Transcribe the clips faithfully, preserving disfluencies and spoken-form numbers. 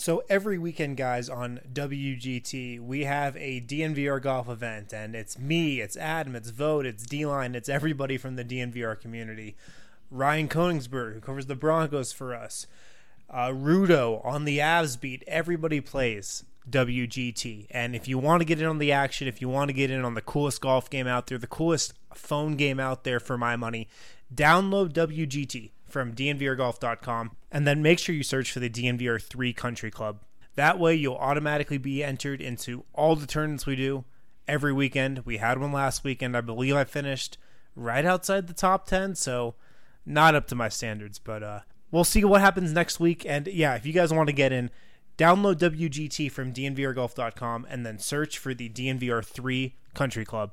So every weekend, guys, on W G T, we have a D N V R golf event, and it's me, it's Adam, it's Vote, it's D-Line, it's everybody from the D N V R community. Ryan Koenigsberg, who covers the Broncos for us. Uh, Rudo on the Avs beat. Everybody plays W G T. And if you want to get in on the action, if you want to get in on the coolest golf game out there, the coolest phone game out there for my money, download W G T from D N V R golf dot com, and then make sure you search for the D N V R three Country Club. That way you'll automatically be entered into all the tournaments we do every weekend. We had one last weekend. I believe I finished right outside the top ten, so not up to my standards, but uh, we'll see what happens next week. And yeah, if you guys want to get in, download W G T from D N V R golf dot com and then search for the D N V R three Country Club.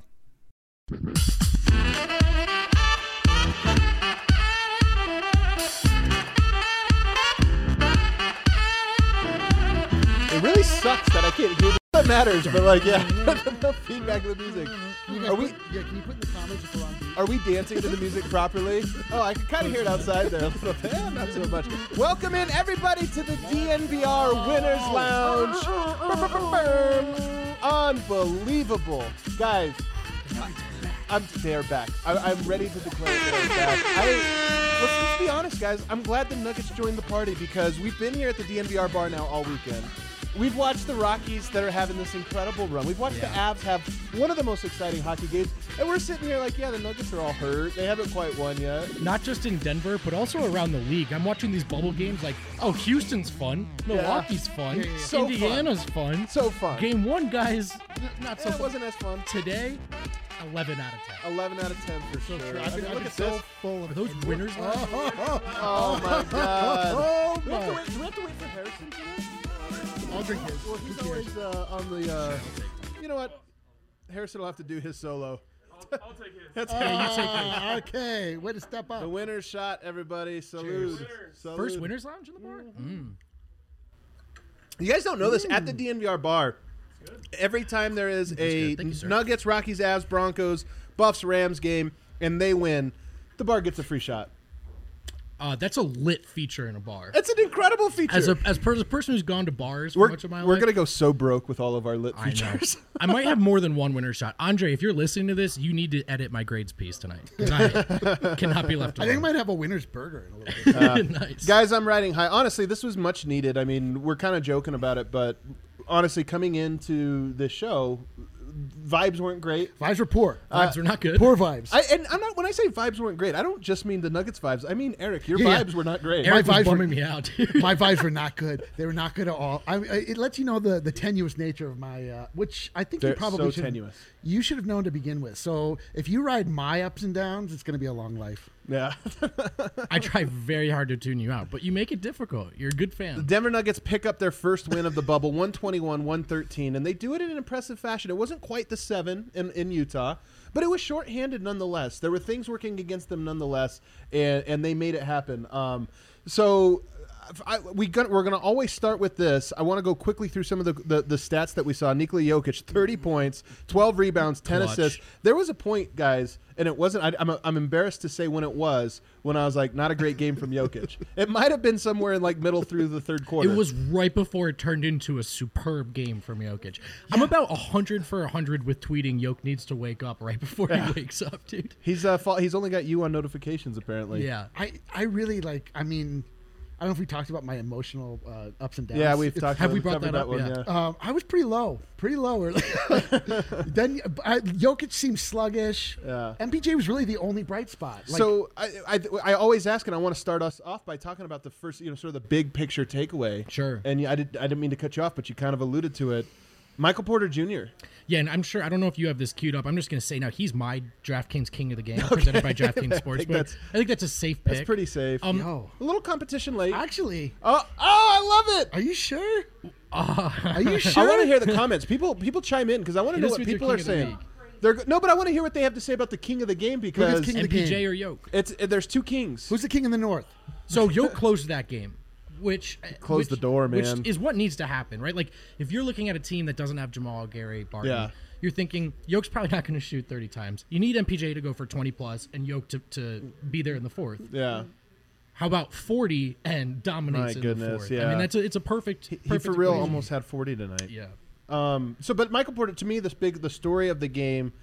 It really sucks that I can't hear what matters, but like, yeah, no feedback of the music. Are we? Yeah, can you put in the comments if we're on beat? Are we dancing to the music properly? Oh, I can kind of hear it outside there a little bit. Eh, not so much. Welcome in everybody to the D N V R Winners Lounge. Unbelievable, guys. I'm they're back. I, I'm ready to declare they're back. I, let's, let's be honest, guys. I'm glad the Nuggets joined the party because we've been here at the D N V R bar now all weekend. We've watched the Rockies that are having this incredible run. We've watched yeah. the Avs have one of the most exciting hockey games. And we're sitting here like, yeah, the Nuggets are all hurt. They haven't quite won yet. Not just in Denver, but also around the league. I'm watching these bubble games like, oh, Houston's fun. Milwaukee's yeah. fun. Yeah, yeah. So Indiana's fun. fun. So fun. Game one, guys, not so yeah, fun. It wasn't as fun. Today, eleven out of ten. eleven out of ten for so sure. True. I I've mean, been, look I've at been this. so full of Are those winners? Oh, oh, oh, oh, my God. Oh, Do we, have to my. wait, do we have to wait for Harrison for this? I'll drink his. Well, he's always uh, on the, uh, you know what? Harrison will have to do his solo. I'll, I'll take his. That's Yeah, you take Ah, okay, way to step up. the winner's shot, everybody. Salute. Cheers. Salute. First winners lounge in the bar? Mm. You guys don't know this. At the D N V R bar, every time there is a Thank you, sir. Nuggets, Rockies, Avs, Broncos, Buffs, Rams game, and they win, the bar gets a free shot. Uh, that's a lit feature in a bar. It's an incredible feature. As a as, per, as a person who's gone to bars we're for much of my we're life, going to go so broke with all of our lit I know. features. I might have more than one winner shot. Andre, if you're listening to this, you need to edit my grades piece tonight because I cannot be left I alone. think I might have a winner's burger in a little bit. Uh, nice. Guys, I'm riding high. Honestly, this was much needed. I mean, we're kind of joking about it, but honestly, coming into this show, vibes weren't great. Vibes were poor. Vibes are not good. Poor vibes. I, and I'm not when I say vibes weren't great, I don't just mean the Nuggets vibes. I mean, Eric, your Yeah, yeah. vibes were not great. Eric My was vibes were- bumming me out, dude. My vibes were not good. They were not good at all. I, I, it lets you know the, the tenuous nature of my, uh, which I think They're you probably so should. tenuous. You should have known to begin with. So if you ride my ups and downs, it's going to be a long life. Yeah. I try very hard to tune you out, but you make it difficult. You're a good fan. The Denver Nuggets pick up their first win of the bubble, one twenty-one one thirteen, and they do it in an impressive fashion. It wasn't quite the seven in, in Utah, but it was shorthanded nonetheless. There were things working against them nonetheless, and, and they made it happen. Um, so I, we got, we're going to always start with this. I want to go quickly through some of the, the, the stats that we saw. Nikola Jokic, thirty points, twelve rebounds, ten Clutch. assists. There was a point, guys, and it wasn't, I, I'm, I'm embarrassed to say when it was, when I was like, not a great game from Jokic. It might have been somewhere in like middle through the third quarter. It was right before it turned into a superb game from Jokic. I'm about one hundred for one hundred with tweeting Jokic needs to wake up right before he wakes up, dude. He's uh, fa- he's only got you on notifications apparently. Yeah. I, I really like, I mean, I don't know if we talked about my emotional uh, ups and downs. Yeah, we've It's- talked. have about, we brought covered that up? one, Yeah. yeah. Um, I was pretty low, pretty low. early. Then I, Jokic seemed sluggish. Yeah. M P J was really the only bright spot. Like, so I, I I always ask, and I want to start us off by talking about the first, you know, sort of the big picture takeaway. Sure. And yeah, I did I didn't mean to cut you off, but you kind of alluded to it. Michael Porter Junior Yeah, and I'm sure, I don't know if you have this queued up. I'm just going to say now, he's my DraftKings King of the Game, presented by DraftKings Sportsbook. that's- I think that's a safe pick. That's pretty safe. Um, yo, a little competition late. actually, oh, oh, I love it. are you sure? Uh, Are you sure? I want to hear the comments. People people chime in because I want to It know is what with your people king are of the saying. league. They're go- no, but I want to hear what they have to say about the king of the game because king of the M P J game? or Yoke. it's it, there's two kings. Who's the king in the north? So Yoke closed that game, which Close which, the door, man. Which is what needs to happen, right? Like if you're looking at a team that doesn't have Jamal, Gary, Barton, Yeah. you're thinking Yoke's probably not going to shoot thirty times. You need M P J to go for twenty plus, and Yoke to, to be there in the fourth. Yeah. How about forty and dominates My in goodness, the fourth? yeah. I mean, that's a, it's a perfect. He, he perfect for real equation. almost had forty tonight. Yeah. Um, so, but Michael Porter, to me, this big the story of the game.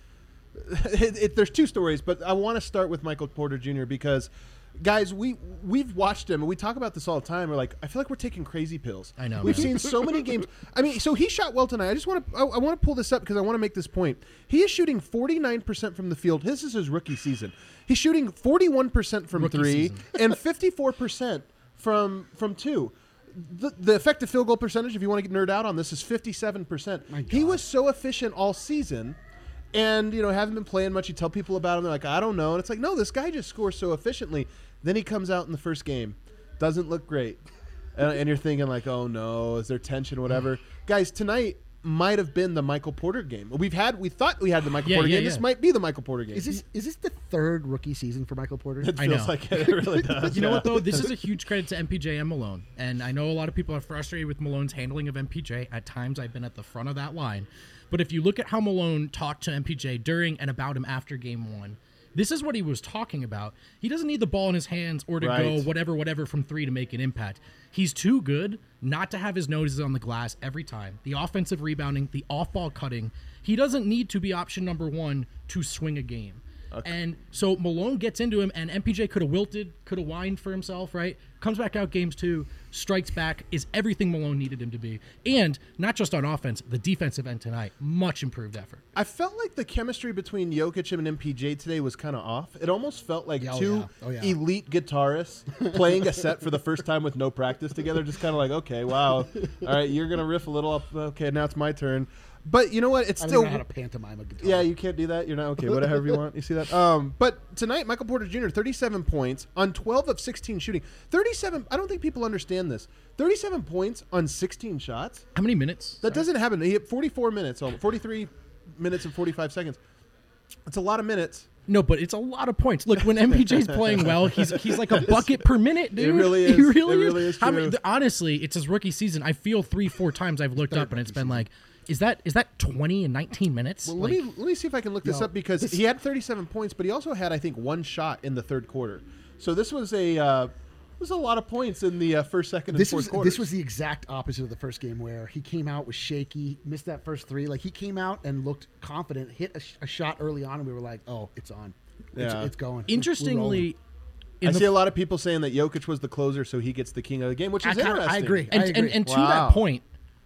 It, it, there's two stories, but I want to start with Michael Porter Junior because, guys, we we've watched him and we talk about this all the time. We're like, I feel like we're taking crazy pills. I know, We've man. seen so many games. I mean, so he shot well tonight. I just want to I, I want to pull this up because I want to make this point. He is shooting forty-nine percent from the field. This is his rookie season. He's shooting forty-one percent from Rookie three season. and fifty-four percent from from two. The, the effective field goal percentage, if you want to get nerd out on this, is fifty-seven percent. My He God. was so efficient all season, and you know haven't been playing much. You tell people about him, they're like, I don't know, and it's like, no, this guy just scores so efficiently. Then he comes out in the first game, doesn't look great, and, and you're thinking like, oh no, is there tension, whatever. Guys, tonight might have been the Michael Porter game. We've had, we thought we had the Michael Yeah, Porter yeah, game. yeah. This might be the Michael Porter game. Is this is this the third rookie season for Michael Porter? It I feels know. like it, it really does. You know yeah. what, though? This is a huge credit to M P J and Malone. And I know a lot of people are frustrated with Malone's handling of M P J. At times, I've been at the front of that line. But if you look at how Malone talked to M P J during and about him after game one, this is what he was talking about. He doesn't need the ball in his hands or to Right. go whatever, whatever from three to make an impact. He's too good not to have his noses on the glass every time. The offensive rebounding, the off-ball cutting. He doesn't need to be option number one to swing a game. And so Malone gets into him, and M P J could have wilted, could have whined for himself, right? Comes back out games two, strikes back, is everything Malone needed him to be. And not just on offense, the defensive end tonight, much improved effort. I felt like the chemistry between Jokic and M P J today was kind of off. It almost felt like Yeah, oh two yeah. Oh yeah. elite guitarists playing a set for the first time with no practice together. Just kind of like, okay, wow, all right, you're gonna riff a little up. Okay, now it's my turn. But you know what? It's I don't still know how to pantomime a guitar. yeah, you can't do that. You're not okay. Whatever you want. You see that? Um, but tonight, Michael Porter Junior, thirty-seven points on twelve of sixteen shooting. thirty-seven. I don't think people understand this. thirty-seven points on sixteen shots. How many minutes? That doesn't happen. He had forty-four minutes, almost, forty-three minutes and forty-five seconds. It's a lot of minutes. No, but it's a lot of points. Look, when M P J's playing well, he's he's like a bucket per minute, dude. really He is. really It is. really is How many- true. th- honestly, it's his rookie season. I feel three, four times I've looked up and it's been like, is that is that twenty and nineteen minutes? Well, Like, let me let me see if I can look this Yo, up because he had thirty-seven points, but he also had I think one shot in the third quarter. So this was a uh, was a lot of points in the uh, first, second, and This fourth was quarters. this was the exact opposite of the first game where he came out was shaky, missed that first three. Like he came out and looked confident, hit a, sh- a shot early on, and we were like, "Oh, it's on, it's, Yeah. it's going." We're rolling. interestingly, in I the see a lot of people saying that Jokic was the closer, so he gets the king of the game, which I is kinda- I interesting. agree. and, I and, agree. and to Wow. that point,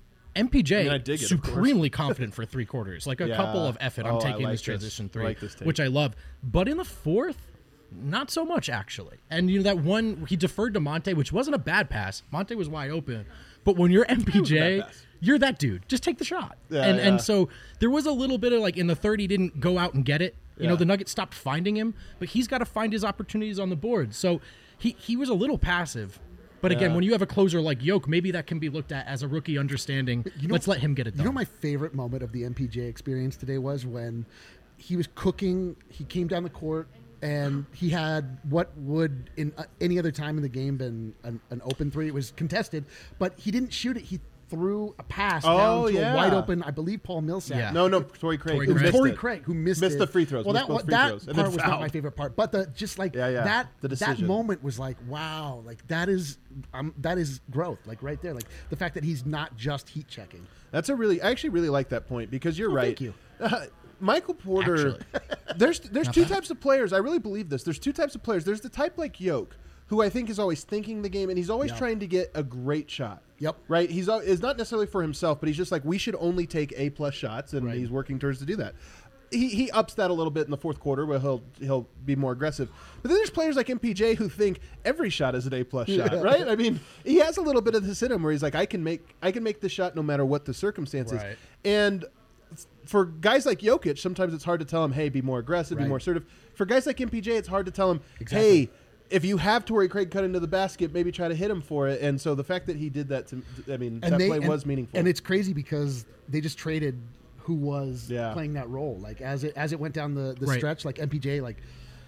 M P J I mean, I dig it, of course. supremely confident for three quarters, like a Yeah. couple of F it. I'm Oh, I taking like this this. transition I three, like this take. which I love. But in the fourth, not so much actually. And you know that one he deferred to Monte, which wasn't a bad pass. Monte was wide open, but when you're M P J, bad pass. you're that dude. Just take the shot. Yeah, and yeah. and so there was a little bit of like in the third, he didn't go out and get it. You know, Yeah. the Nuggets stopped finding him, but he's got to find his opportunities on the board. So he he was a little passive. But again, Yeah. when you have a closer like Yoke, maybe that can be looked at as a rookie understanding. You know- Let's let him get it You done. know, my favorite moment of the M P J experience today was when he was cooking. He came down the court and he had what would in uh, any other time in the game been an, an open three. It was contested, but he didn't shoot it. He threw a pass Oh, down to yeah. a wide open, I believe, Paul Millsap. Yeah. No, no, Torrey Craig. Torrey who It was Craig. missed Torrey it. Craig who missed Missed it. the free throws, Well, missed that, both free that throws, and part then was not fouled. my favorite part, but the just like Yeah, yeah. that The that decision. moment was like, wow, like that is um, that is growth, like right there, like the fact that he's not just heat checking. That's a really. I actually really like that point because you're Oh, right. thank you. Uh, Michael Porter. Actually. There's there's Not two bad. types of players. I really believe this. There's two types of players. There's the type like Yoke, who I think is always thinking the game and he's always Yeah. trying to get a great shot. Yep. Right. He's al- it's not necessarily for himself, but he's just like we should only take A plus shots, and Right. he's working towards to do that. He, he ups that a little bit in the fourth quarter where he'll he'll be more aggressive. But then there's players like M P J who think every shot is an A plus shot, Yeah. right? I mean, he has a little bit of this in him where he's like, I can make I can make this shot no matter what the circumstances. Right. And for guys like Jokic, sometimes it's hard to tell him, hey, be more aggressive, be Right. more assertive. For guys like M P J, it's hard to tell him, Exactly. hey, if you have Torrey Craig cut into the basket, maybe try to hit him for it. And so the fact that he did that, to, I mean, that play and, was meaningful. and it's crazy because they just traded who was Yeah. playing that role. Like as it as it went down the, the Right. stretch, like M P J, like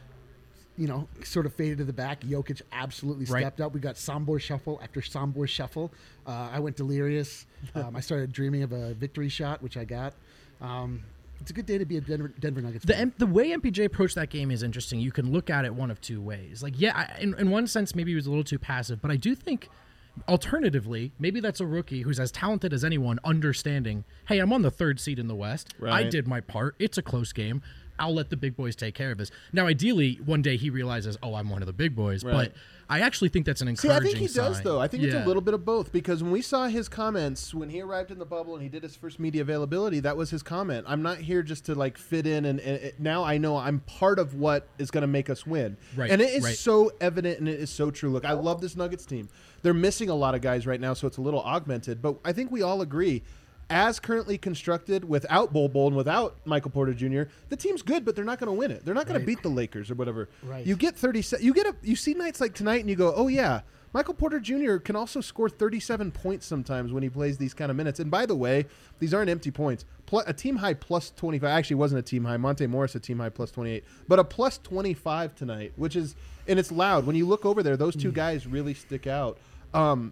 you know, sort of faded to the back. Jokic absolutely Right. stepped up. We got Sombor shuffle after Sombor shuffle. Uh, I went delirious. Um, I started dreaming of a victory shot, which I got. Um, It's a good day to be a Denver, Denver Nuggets The fan. M- the way M P J approached that game is interesting. You can look at it one of two ways. Like, yeah, I, in, in one sense, maybe he was a little too passive, but I do think, alternatively, maybe that's a rookie who's as talented as anyone, understanding, hey, I'm on the third seed in the West. I Right. did my part. It's a close game. I'll let the big boys take care of this. Now, ideally, one day he realizes, oh, I'm one of the big boys. Right. But I actually think that's an See, encouraging I think he does, sign. though. I think it's Yeah. a little bit of both because when we saw his comments when he arrived in the bubble and he did his first media availability, that was his comment. I'm not here just to like fit in, and, and it, now I know I'm part of what is going to make us win. Right, And it is right. so evident and it is so true. Look, I love this Nuggets team. They're missing a lot of guys right now, so it's a little augmented. But I think we all agree, as currently constructed, without Bol Bol and without Michael Porter Junior, the team's good, but they're not going to win it. They're not going Right. to beat the Lakers or whatever. Right. You get thirty. You get a. You see nights like tonight, and you go, "Oh yeah, Michael Porter Junior can also score thirty-seven points sometimes when he plays these kind of minutes." And by the way, these aren't empty points. Pl- a team high plus twenty-five. Actually, wasn't a team high. Monte Morris a team high plus twenty-eight, but a plus twenty-five tonight, which is and it's loud. When you look over there, those two guys really stick out. Um,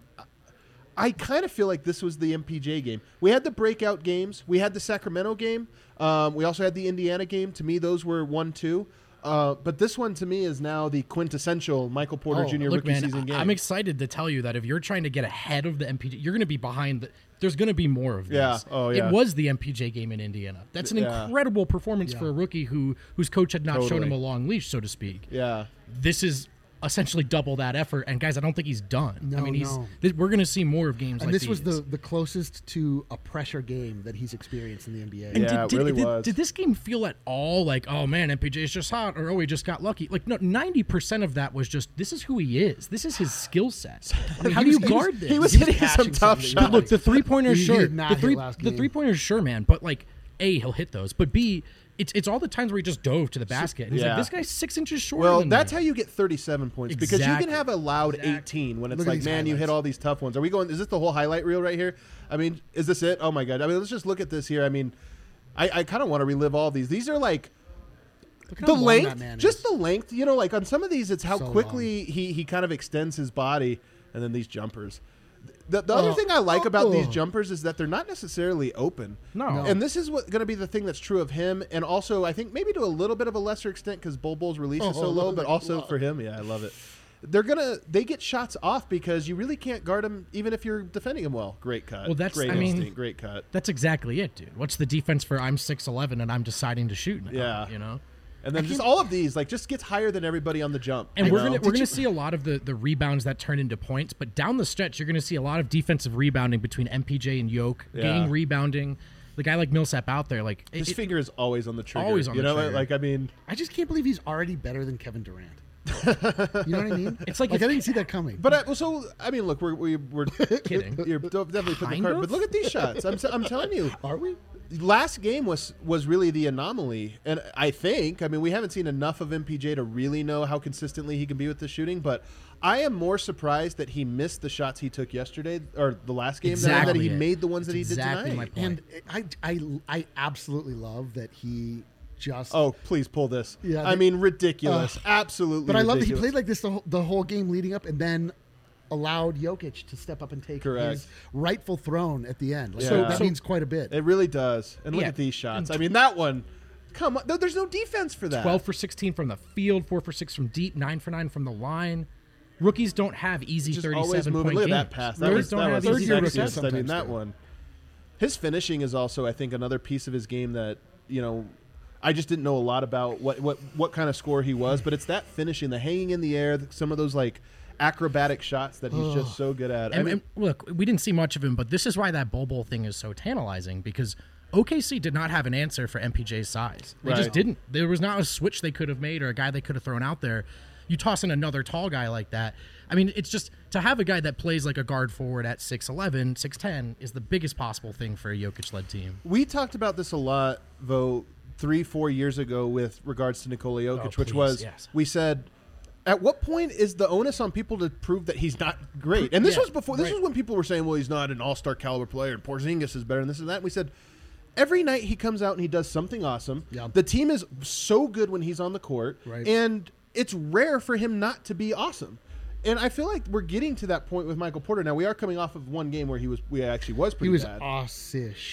I kind of feel like this was the M P J game. We had the breakout games. We had the Sacramento game. Um, we also had the Indiana game. To me, those were one, two. Uh, but this one, to me, is now the quintessential Michael Porter Oh, Junior Look, rookie man, season I- game. I'm excited to tell you that if you're trying to get ahead of the M P J, you're going to be behind. The, there's going to be more of this. Yeah. Oh, yeah. It was the M P J game in Indiana. That's an Yeah. incredible performance for a rookie who whose coach had not shown Totally. him a long leash, so to speak. yeah. This is essentially double that effort. And guys, I don't think he's done. I No, mean, he's no. th- we're going to see more of games and like this these. was the, the closest to a pressure game that he's experienced in the N B A. And Yeah, it really did, was. Did this game feel at all like, oh man, M P J is just hot, or oh, he just got lucky? Like, no, ninety percent of that was just, this is who he is. This is his skill set. I mean, how do you was- he was- guard this? He was He was hitting some catching tough something. shots. Look, the three pointers, He sure. did not the hit three, last the game. three pointers, sure, man. But like, A, he'll hit those. But B, it's it's all the times where he just dove to the basket. And he's yeah. like, this guy's six inches shorter. Well, than that's me. how you get thirty-seven points because you Exactly. can have a loud Exactly. eighteen when it's Look at like, these man, you hit highlights. all these tough ones. Are we going? Is this the whole highlight reel right here? I mean, is this it? Oh my god! I mean, let's just look at this here. I mean, I, I kind of want to relive all these. These are like Look how the long length, that man just is. the length. You know, like on some of these, it's how So quickly he he kind of extends his body, and then these jumpers. The, the other Oh. thing I like about these Oh. jumpers is that they're not necessarily open. No. No. And this is what going to be the thing that's true of him, and also I think maybe to a little bit of a lesser extent because Bol Bol's release is so Oh, low, look but at also that. for him, yeah, I love it. They're gonna they get shots off because you really can't guard him even if you're defending him well. Great cut. Well, that's- great I mean- instinct, great cut. That's exactly it, dude. What's the defense for I'm six eleven and I'm deciding to shoot now, Yeah. you know? And then just all of these like just gets higher than everybody on the jump. And you we're know? gonna we're Did gonna you- see a lot of the, the rebounds that turn into points, but down the stretch you're gonna see a lot of defensive rebounding between M P J and Yoke, Yeah. gang rebounding. The guy like Millsap out there, like it- his it- finger is always on the trigger. Always on you the know, trigger. like I mean, I just can't believe he's already better than Kevin Durant. You know what I mean? It's like like if- I didn't see that coming. but I, well, so I mean, look, we're we, we're Kidding. You're definitely putting the Kind card, of? but look at these shots. I'm I'm telling you, Are we? last game was was really the anomaly, and I think I mean we haven't seen enough of M P J to really know how consistently he can be with the shooting, but I am more surprised that he missed the shots he took yesterday or the last game than that Exactly he it. made the ones that he That's did exactly tonight. my point. And I, I, I absolutely love that he just. Oh, please pull this. Yeah, I they- mean ridiculous, Ugh. absolutely. But I love that he ridiculous. played like this the whole, the whole game leading up, and then allowed Jokic to step up and take Correct. his rightful throne at the end. Like, Yeah. So that So- means quite a bit. It really does. And look Yeah. at these shots. I mean that one. Come on, there's no defense for that. twelve for sixteen from the field, four for six from deep, nine for nine from the line. Rookies don't have easy Just thirty-seven always moving. point Look at games. that pass. That Rookies was, don't that have was easy third-year sexy. rookies I mean sometimes that do. one. His finishing is also, I think, another piece of his game that you know. I just didn't know a lot about what, what, what kind of score he was, but it's that finishing, the hanging in the air, some of those like acrobatic shots that he's just so good at. I And, mean, and look, we didn't see much of him, but this is why that Bol Bol thing is so tantalizing because O K C did not have an answer for M P J's size. They Right. just didn't. There was not a switch they could have made or a guy they could have thrown out there. You toss in another tall guy like that. I mean, it's just to have a guy that plays like a guard forward at six eleven, six ten is the biggest possible thing for a Jokic-led team. we talked about this a lot, though, three, four years ago with regards to Nikola Jokic, Oh, which please, was yes. we said, at what point is the onus on people to prove that he's not great? And this Yeah, was before. This right. was when people were saying, "Well, he's not an all-star caliber player, and Porzingis is better," and this and that. And we said, every night he comes out and he does something awesome. Yeah. The team is so good when he's on the court, Right. and it's rare for him not to be awesome. And I feel like we're getting to that point with Michael Porter. Now we are coming off of one game where he was, we actually was He pretty was bad. assish.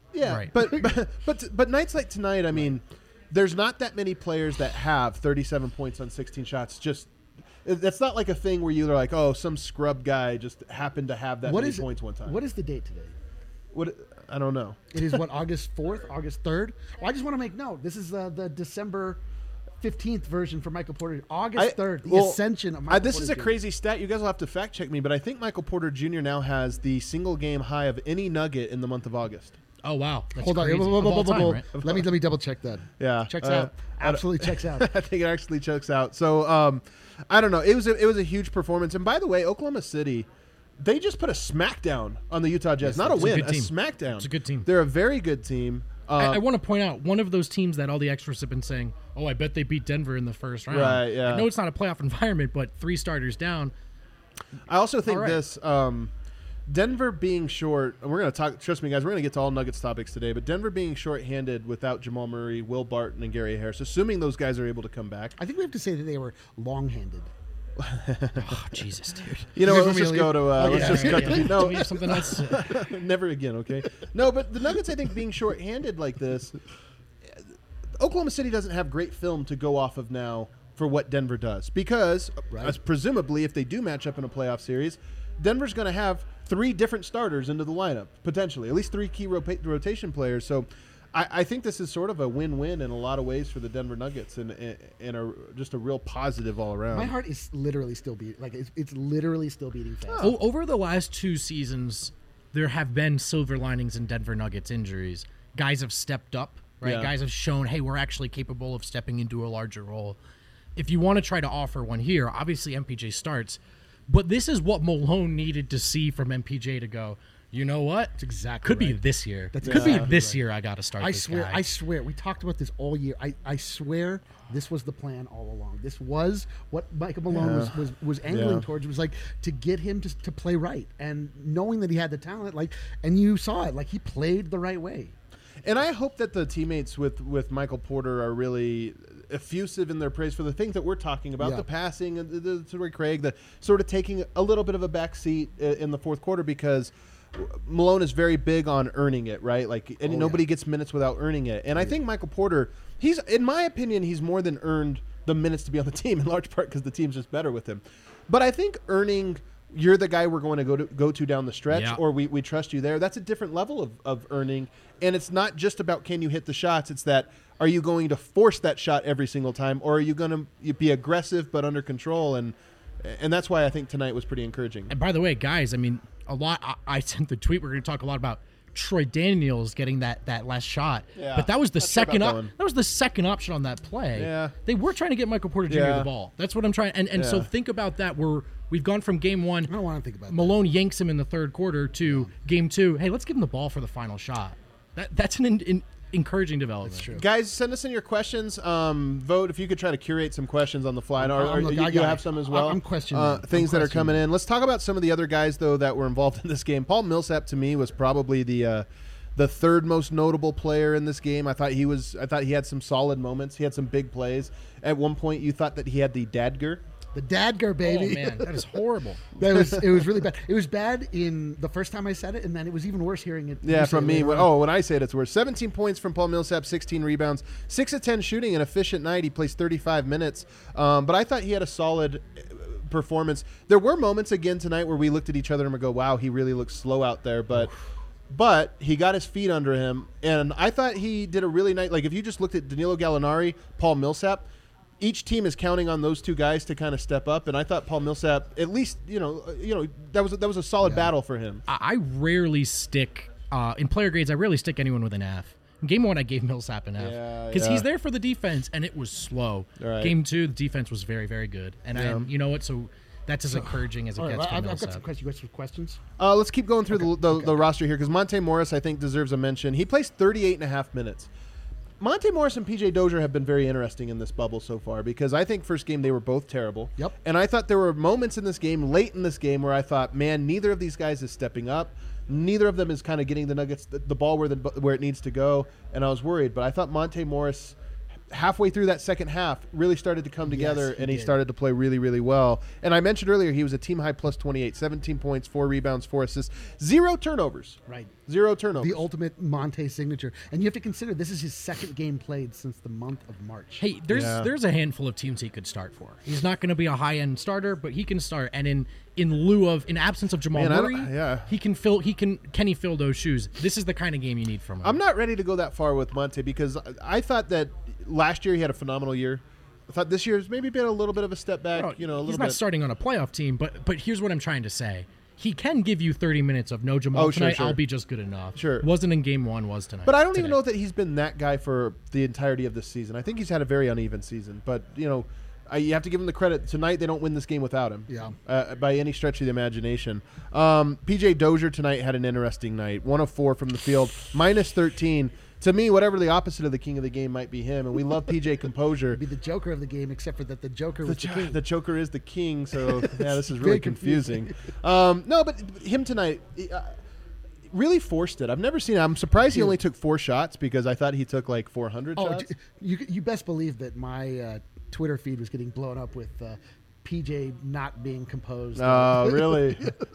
Yeah, Right. but, but but but nights like tonight, I mean, there's not that many players that have thirty-seven points on sixteen shots. Just that's not like a thing where you're like, oh, some scrub guy just happened to have that What many is points one time. What is the date today? What I don't know. It is what, August fourth, August third? Well, I just want to make note. This is uh, the December fifteenth version for Michael Porter. August third, the well, ascension of Michael I, this Porter is a Junior crazy stat. You guys will have to fact check me, but I think Michael Porter Junior now has the single game high of any Nugget in the month of August. Oh wow, that's Hold on. crazy. Whoa, whoa, Of whoa, all whoa, time, whoa. right? Let me let me double check that. Yeah, Checks uh, out. Absolutely checks out. I think it actually checks out. So um, I don't know. It was a, it was a huge performance. And by the way, Oklahoma City, they just put a smackdown on the Utah Jazz. Not a it's a win, good a, team. smackdown. It's a good team. They're a very good team. Uh, I, I want to point out one of those teams that all the extras have been saying, "Oh, I bet they beat Denver in the first round." Right, yeah. I know it's not a playoff environment, but three starters down. I also think All right. this. Um, Denver being short, and we're going to talk, trust me, guys, we're going to get to all Nuggets topics today, but Denver being short-handed without Jamal Murray, Will Barton, and Gary Harris, assuming those guys are able to come back. I think we have to say that they were long-handed. Oh, Jesus, dude. You know You what, guys let's want just me to go to, uh, leave? let's Okay, just all cut right, the, Do no, we have something else? never again, okay? No, but the Nuggets, I think, being short-handed like this, Oklahoma City doesn't have great film to go off of now for what Denver does. Because, Right. as presumably, if they do match up in a playoff series, Denver's going to have three different starters into the lineup, potentially. At least three key rota- rotation players. So I, I think this is sort of a win-win in a lot of ways for the Denver Nuggets and, and, and a, just a real positive all around. My heart is literally still beating. Like it's, it's literally still beating fast. O- over the last two seasons, there have been silver linings in Denver Nuggets injuries. Guys have stepped up, right? Yeah. Guys have shown, hey, we're actually capable of stepping into a larger role. If you want to try to offer one here, obviously M P J starts, but this is what Malone needed to see from M P J to go, you know what? That's exactly Could be right. this year. That's Could exactly be this right. year I got to start I this swear, guy. I swear, we talked about this all year. I, I swear this was the plan all along. This was what Michael Malone was, was, was angling Yeah. towards. It was like to get him to, to play right. And knowing that he had the talent, like, and you saw it, like he played the right way. And I hope that the teammates with, with Michael Porter are really effusive in their praise for the things that we're talking about, Yeah. the passing, and the, the Torrey Craig, the sort of taking a little bit of a back seat i- in the fourth quarter because Malone is very big on earning it, right? Like, and Oh, nobody yeah. gets minutes without earning it. And I think Michael Porter, he's, in my opinion, he's more than earned the minutes to be on the team in large part because the team's just better with him. But I think earning you're the guy we're going to go to go to down the stretch, Yeah. or we, we trust you there. That's a different level of, of earning. And it's not just about can you hit the shots. It's that are you going to force that shot every single time, or are you going to be aggressive but under control? And and that's why I think tonight was pretty encouraging. And by the way, guys, I mean, a lot. I, I sent the tweet. We're going to talk a lot about Troy Daniels getting that, that last shot. Yeah, but that was the not sure second. about Op- that one. that was the second option on that play. Yeah. They were trying to get Michael Porter Junior Yeah. the ball. That's what I'm trying. And and so Yeah. think about that. We're we've gone from game one. I don't want to think about Malone yanks him in the third quarter to game two. Hey, let's give him the ball for the final shot. That that's an in, in, encouraging development. That's true. Guys, send us in your questions. Um, vote if you could try to curate some questions on the fly. Or, I'm- or look, you, I you got have it. some as I'm- well. I'm questioning uh, them. things I'm that are coming questioning in. Let's talk about some of the other guys though that were involved in this game. Paul Millsap to me was probably the uh, the third most notable player in this game. I thought he was. I thought he had some solid moments. He had some big plays. At one point, you thought that he had the dadger. The Dadger, baby. Oh man, that is horrible. That was it was really bad. It was bad in the first time I said it, and then it was even worse hearing it. you Yeah, say from it me. later When, on. oh, when I say it, it's worse. seventeen points from Paul Millsap, sixteen rebounds, six of ten shooting, an efficient night. He plays thirty-five minutes. Um, but I thought he had a solid uh, performance. There were moments again tonight where we looked at each other and we go, wow, he really looks slow out there. But but he got his feet under him. And I thought he did a really nice, like if you just looked at Danilo Gallinari, Paul Millsap, each team is counting on those two guys to kind of step up, and I thought Paul Millsap, at least, you know, uh, you know, that was that was a solid battle for him. I, I rarely stick uh, in player grades. I rarely stick anyone with an F. In game one, I gave Millsap an F Yeah, because yeah. he's there for the defense, and it was slow. Right. Game two, the defense was very, very good, and, Yeah. and you know what? So that's as encouraging as it All right, gets I've, for I've got Millsap. some questions. You got some questions? Uh, let's keep going through the, the, the roster here because Monte Morris, I think, deserves a mention. He plays thirty-eight and a half minutes. Monte Morris and P J Dozier have been very interesting in this bubble so far because I think first game they were both terrible. Yep. And I thought there were moments in this game, late in this game, where I thought, man, neither of these guys is stepping up. Neither of them is kind of getting the Nuggets the, the ball where the where it needs to go, and I was worried. But I thought Monte Morris halfway through that second half, really started to come together, Yes, he and he did. started to play really, really well. And I mentioned earlier he was a team high plus twenty-eight, seventeen points, four rebounds, four assists, zero turnovers. Right. Zero turnovers. The ultimate Monte signature. And you have to consider this is his second game played since the month of March. Hey, there's Yeah. there's a handful of teams he could start for. He's not going to be a high end starter, but he can start. And in in lieu of, in absence of Jamal Man, I don't- Murray, yeah. he can fill. He can can he fill those shoes? This is the kind of game you need from him. I'm not ready to go that far with Monte because I thought that last year he had a phenomenal year. I thought this year's maybe been a little bit of a step back. Well, you know, a he's little not bit. starting on a playoff team, but but here's what I'm trying to say. He can give you thirty minutes of no Jamal Oh, sure, tonight. sure. I'll be just good enough. Sure. Wasn't in game one, was tonight. But I don't even today. know that he's been that guy for the entirety of this season. I think he's had a very uneven season. But, you know, I, you have to give him the credit. Tonight, they don't win this game without him. Yeah. Uh, by any stretch of the imagination. Um, P J Dozier tonight had an interesting night. one of four from the field, minus thirteen. To me, whatever the opposite of the king of the game might be him. And we love P J composure. Be the Joker of the game, except for that the Joker The, was the, jo- king. the Joker is the king, so yeah, this is Very really confusing. um, no, but him tonight uh, really forced it. I've never seen it. I'm surprised he only took four shots because I thought he took like four hundred Oh, shots. j- you you best believe that my uh, Twitter feed was getting blown up with uh, P J not being composed. Oh, really?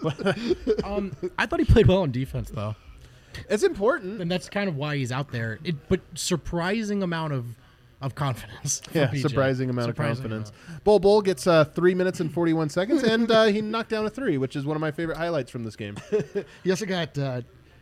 Um, I thought he played well on defense though, It's important. and that's kind of why he's out there. It, but surprising amount of of confidence. from Yeah, P J. surprising amount Surprising of confidence. amount. Bull Bull gets uh, three minutes and forty-one seconds, and uh, he knocked down a three, which is one of my favorite highlights from this game. He also got uh,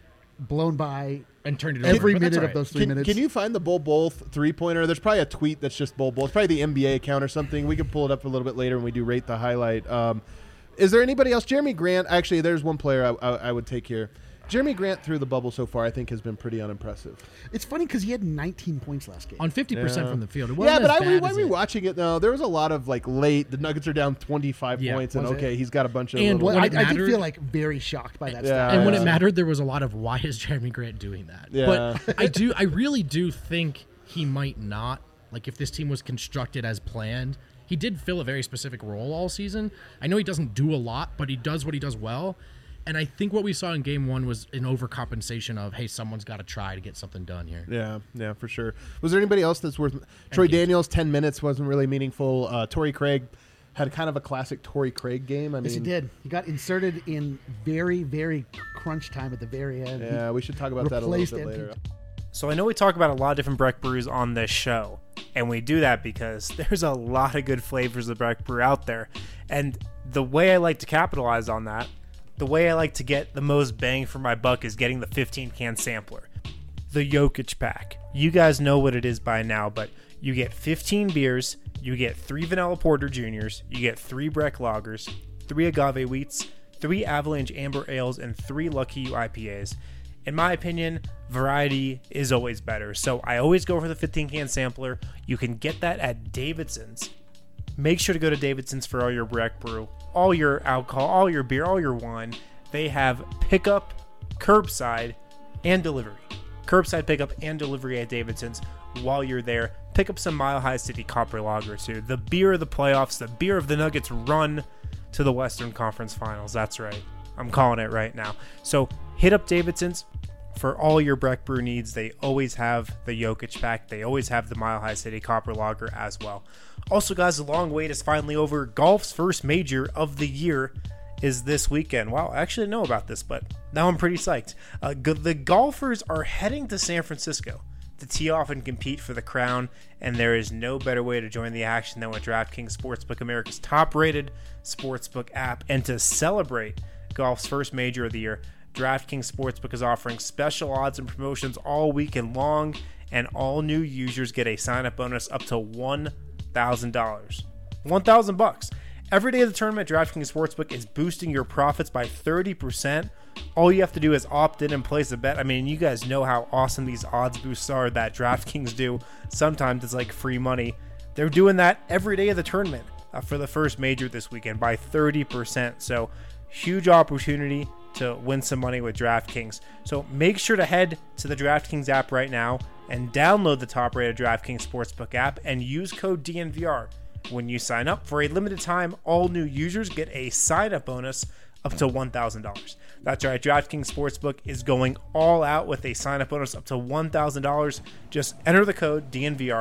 blown by And turned it over. every but that's minute all of right. those three Can, minutes. can you find the Bull Bull th- three-pointer? There's probably a tweet that's just Bull Bull. It's probably the N B A account or something. We can pull it up a little bit later when we do rate the highlight. Um, is there anybody else? Jeremy Grant. Actually, there's one player I, I, I would take here. Jeremy Grant through the bubble so far, I think, has been pretty unimpressive. It's funny because he had nineteen points last game. on fifty percent Yeah. from the field. It Yeah, wasn't but as I re- bad when as we it- watching it though, there was a lot of like late. The Nuggets are down twenty-five Yeah. points, and Was it? okay, he's got a bunch of. And little, well, when I, it I did mattered- feel like very shocked by that. Yeah, stat. And when yeah. it mattered, there was a lot of why is Jeremy Grant doing that? Yeah. But I do, I really do think he might not. Like if this team was constructed as planned, he did fill a very specific role all season. I know he doesn't do a lot, but he does what he does well. And I think what we saw in game one was an overcompensation of, hey, someone's got to try to get something done here. Yeah, yeah, for sure. Was there anybody else that's worth? Troy you. Daniels, ten minutes wasn't really meaningful. Uh, Torrey Craig had kind of a classic Torrey Craig game. I mean, Yes, he did. He got inserted in very, very crunch time at the very end. Yeah, we should talk about that a little Replaced bit M P J. later. So I know we talk about a lot of different Breck brews on this show, and we do that because there's a lot of good flavors of Breck brew out there. And the way I like to capitalize on that, the way I like to get the most bang for my buck is getting the fifteen can sampler. The Jokic pack. You guys know what it is by now, but you get fifteen beers, you get three Vanilla Porter Juniors, you get three Breck Lagers, three Agave Wheats, three Avalanche Amber Ales, and three Lucky U I P As. In my opinion, variety is always better, so I always go for the fifteen can sampler. You can get that at Davidson's. Make sure to go to Davidson's for all your Breck brew, all your alcohol, all your beer, all your wine. They have pickup, curbside, and delivery. Curbside pickup and delivery at Davidson's. While you're there, pick up some Mile High City Copper Lager too. The beer of the playoffs, the beer of the Nuggets run to the Western Conference Finals. That's right. I'm calling it right now. So hit up Davidson's for all your Breck brew needs. They always have the Jokic pack. They always have the Mile High City Copper Lager as well. Also, guys, the long wait is finally over. Golf's first major of the year is this weekend. Wow, I actually didn't know about this, but now I'm pretty psyched. Uh, g- the golfers are heading to San Francisco to tee off and compete for the crown, and there is no better way to join the action than with DraftKings Sportsbook, America's top-rated sportsbook app. And to celebrate golf's first major of the year, DraftKings Sportsbook is offering special odds and promotions all weekend long, and all new users get a sign-up bonus up to one thousand dollars. one thousand bucks. Every day of the tournament, DraftKings Sportsbook is boosting your profits by thirty percent. All you have to do is opt in and place a bet. I mean, you guys know how awesome these odds boosts are that DraftKings do. Sometimes it's like free money. They're doing that every day of the tournament uh, for the first major this weekend by thirty percent. So, huge opportunity to win some money with DraftKings. So, make sure to head to the DraftKings app right now and download the top-rated DraftKings Sportsbook app and use code D N V R. When you sign up for a limited time, all new users get a sign-up bonus up to one thousand dollars. That's right, DraftKings Sportsbook is going all out with a sign-up bonus up to one thousand dollars. Just enter the code D N V R,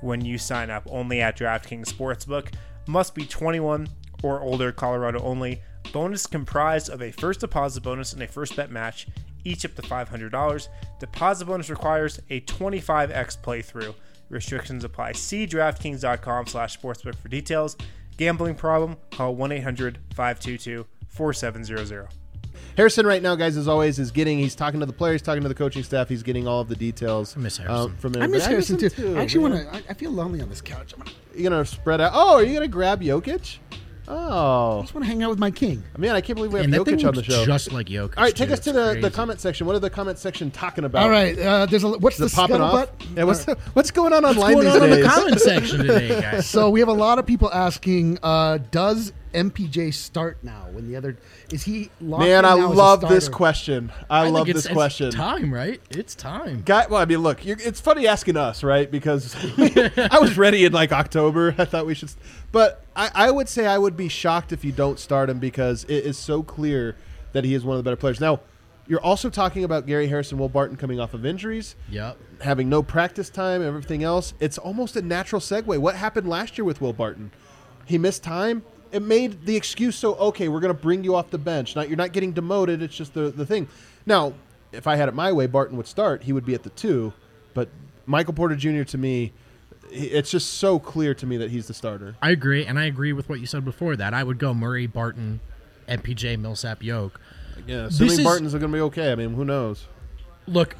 when you sign up only at DraftKings Sportsbook. Must be twenty-one or older, Colorado only. Bonus comprised of a first deposit bonus and a first bet match, each up to five hundred dollars. Deposit bonus requires a twenty-five x playthrough. Restrictions apply. See DraftKings.com slash sportsbook for details. Gambling problem? Call one eight hundred five two two four seven zero zero. Harrison right now, guys, as always, is getting, he's talking to the players, talking to the coaching staff. He's getting all of the details. I miss Harrison. Um, from I miss everybody. Harrison too. too. I actually man. want to. I, I feel lonely on this couch. I You're going to spread out. Oh, are you going to grab Jokic? Oh. just want to hang out with my king. Man, I can't believe we have And that thing Jokic on the looks show. just like Jokic. All right, take too. us to It's the, the crazy. comment section. What are the comment section talking about? All right, uh, there's a what's Is the it popping off? scuttlebutt? Yeah, what's, the, what's going on online What's these going on in days? the comment section today, guys? So we have a lot of people asking, uh, does M P J start now? When the other is he locked Man, in I now as a love this starter? question. I, love think this it's, question. It's time, right? It's time. Guy, well, I mean, look, you're, it's funny asking us, right? Because I was ready in like October. I thought we should, but I, I would say I would be shocked if you don't start him because it is so clear that he is one of the better players. Now, you're also talking about Gary Harrison, Will Barton coming off of injuries, Yep. having no practice time, everything else. It's almost a natural segue. What happened last year with Will Barton? He missed time. It made the excuse so, okay, we're going to bring you off the bench. Not, you're not getting demoted. It's just the, the thing. Now, if I had it my way, Barton would start. He would be at the two. But Michael Porter Junior, to me, he- it's just so clear to me that he's the starter. I agree, and I agree with what you said before that. I would go Murray, Barton, M P J, Millsap, Yoke. Yeah, This assuming is- Barton's going to be okay. I mean, who knows? Look,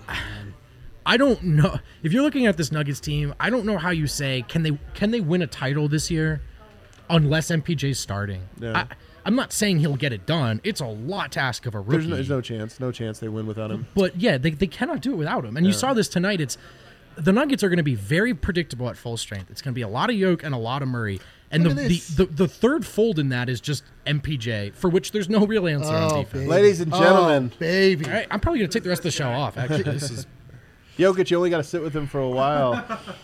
I don't know. If you're looking at this Nuggets team, I don't know how you say, can they can they win a title this year unless M P J's starting? Yeah. I, I'm not saying he'll get it done. It's a lot to ask of a rookie. There's no, there's no chance. No chance they win without him. But yeah, they, they cannot do it without him. And you saw this tonight. It's the Nuggets are going to be very predictable at full strength. It's going to be a lot of Yoke and a lot of Murray. And the, Look at the, this. the the third fold in that is just M P J, for which there's no real answer on Oh, defense. baby. Ladies and gentlemen. Oh, baby. All right, I'm probably going to take the rest of the show off. Actually, this is Jokic, you only got to sit with him for a while.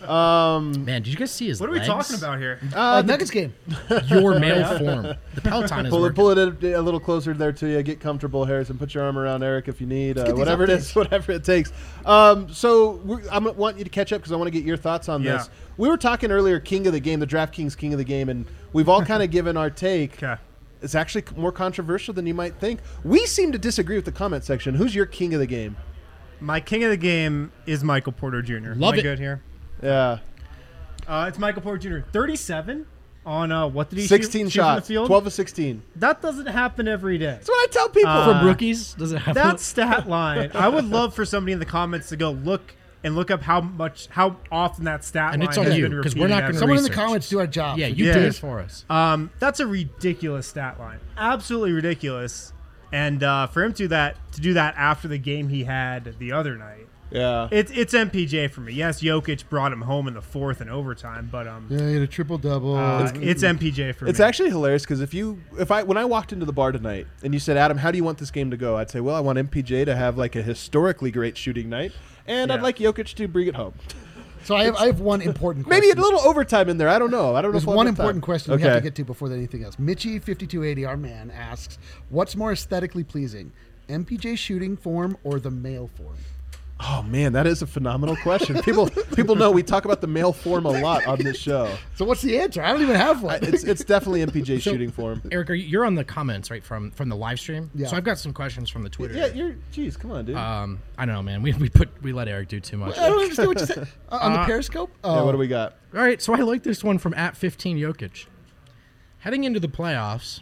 Um, man. Did you guys see his? What are we legs? talking about here? Uh, Nuggets game. Your male form. The Peloton is pull it, working. pull it a, a little closer there to you. Get comfortable, Harrison. Put your arm around Eric if you need. Uh, get these whatever it is, whatever it takes. Um, so we're, I'm gonna want you to catch up because I want to get your thoughts on Yeah. this. We were talking earlier, King of the Game, the DraftKings King of the Game, and we've all kind of given our take. Okay. It's actually more controversial than you might think. We seem to disagree with the comment section. Who's your King of the Game? My king of the game is Michael Porter Junior Love Am I it. good here? Yeah, Uh, it's Michael Porter Junior thirty-seven on uh, what did he sixteen shoot, shoot from the shots, field? twelve of sixteen. That doesn't happen every day. That's what I tell people. Uh, From rookies, does it have That stat line, I would love for somebody in the comments to go look and look up how much, how often that stat And line it's on has you, been 'cause we're repeated not every- gonna Someone in the research. comments do our job. Yeah, you Yeah. do it for us. Um, that's a ridiculous stat line. Absolutely ridiculous. And uh, for him to that to do that after the game he had the other night, yeah. it's it's M P J for me. Yes, Jokic brought him home in the fourth and overtime, but um, Yeah, he had a triple double. uh, it's M P J for It's me. actually hilarious because if you, if I, when I walked into the bar tonight and you said, Adam, how do you want this game to go? I'd say, well, I want M P J to have like a historically great shooting night, and I'd Yeah. like Jokic to bring it home. So I have I have one important question. Maybe a little overtime in there. I don't know. I don't There's know. if we'll one have time. important question okay. we have to get to before anything else. Mitchie fifty-two eighty, our man, asks, what's more aesthetically pleasing, M P J shooting form or the male form? Oh man, that is a phenomenal question. People, people know we talk about the male form a lot on this show. So what's the answer? I don't even have one. I- It's it's definitely M P J So, shooting form. Eric, are you, you're on the comments right from from the live stream. Yeah. So I've got some questions from the Twitter. Yeah, you're. Geez, come on, dude. Um, I don't know, man. We we put we let Eric do too much. I don't understand what you said. Uh, on the Uh, Periscope? yeah, Oh, what do we got? All right, so I like this one from at fifteen Jokic. Heading into the playoffs,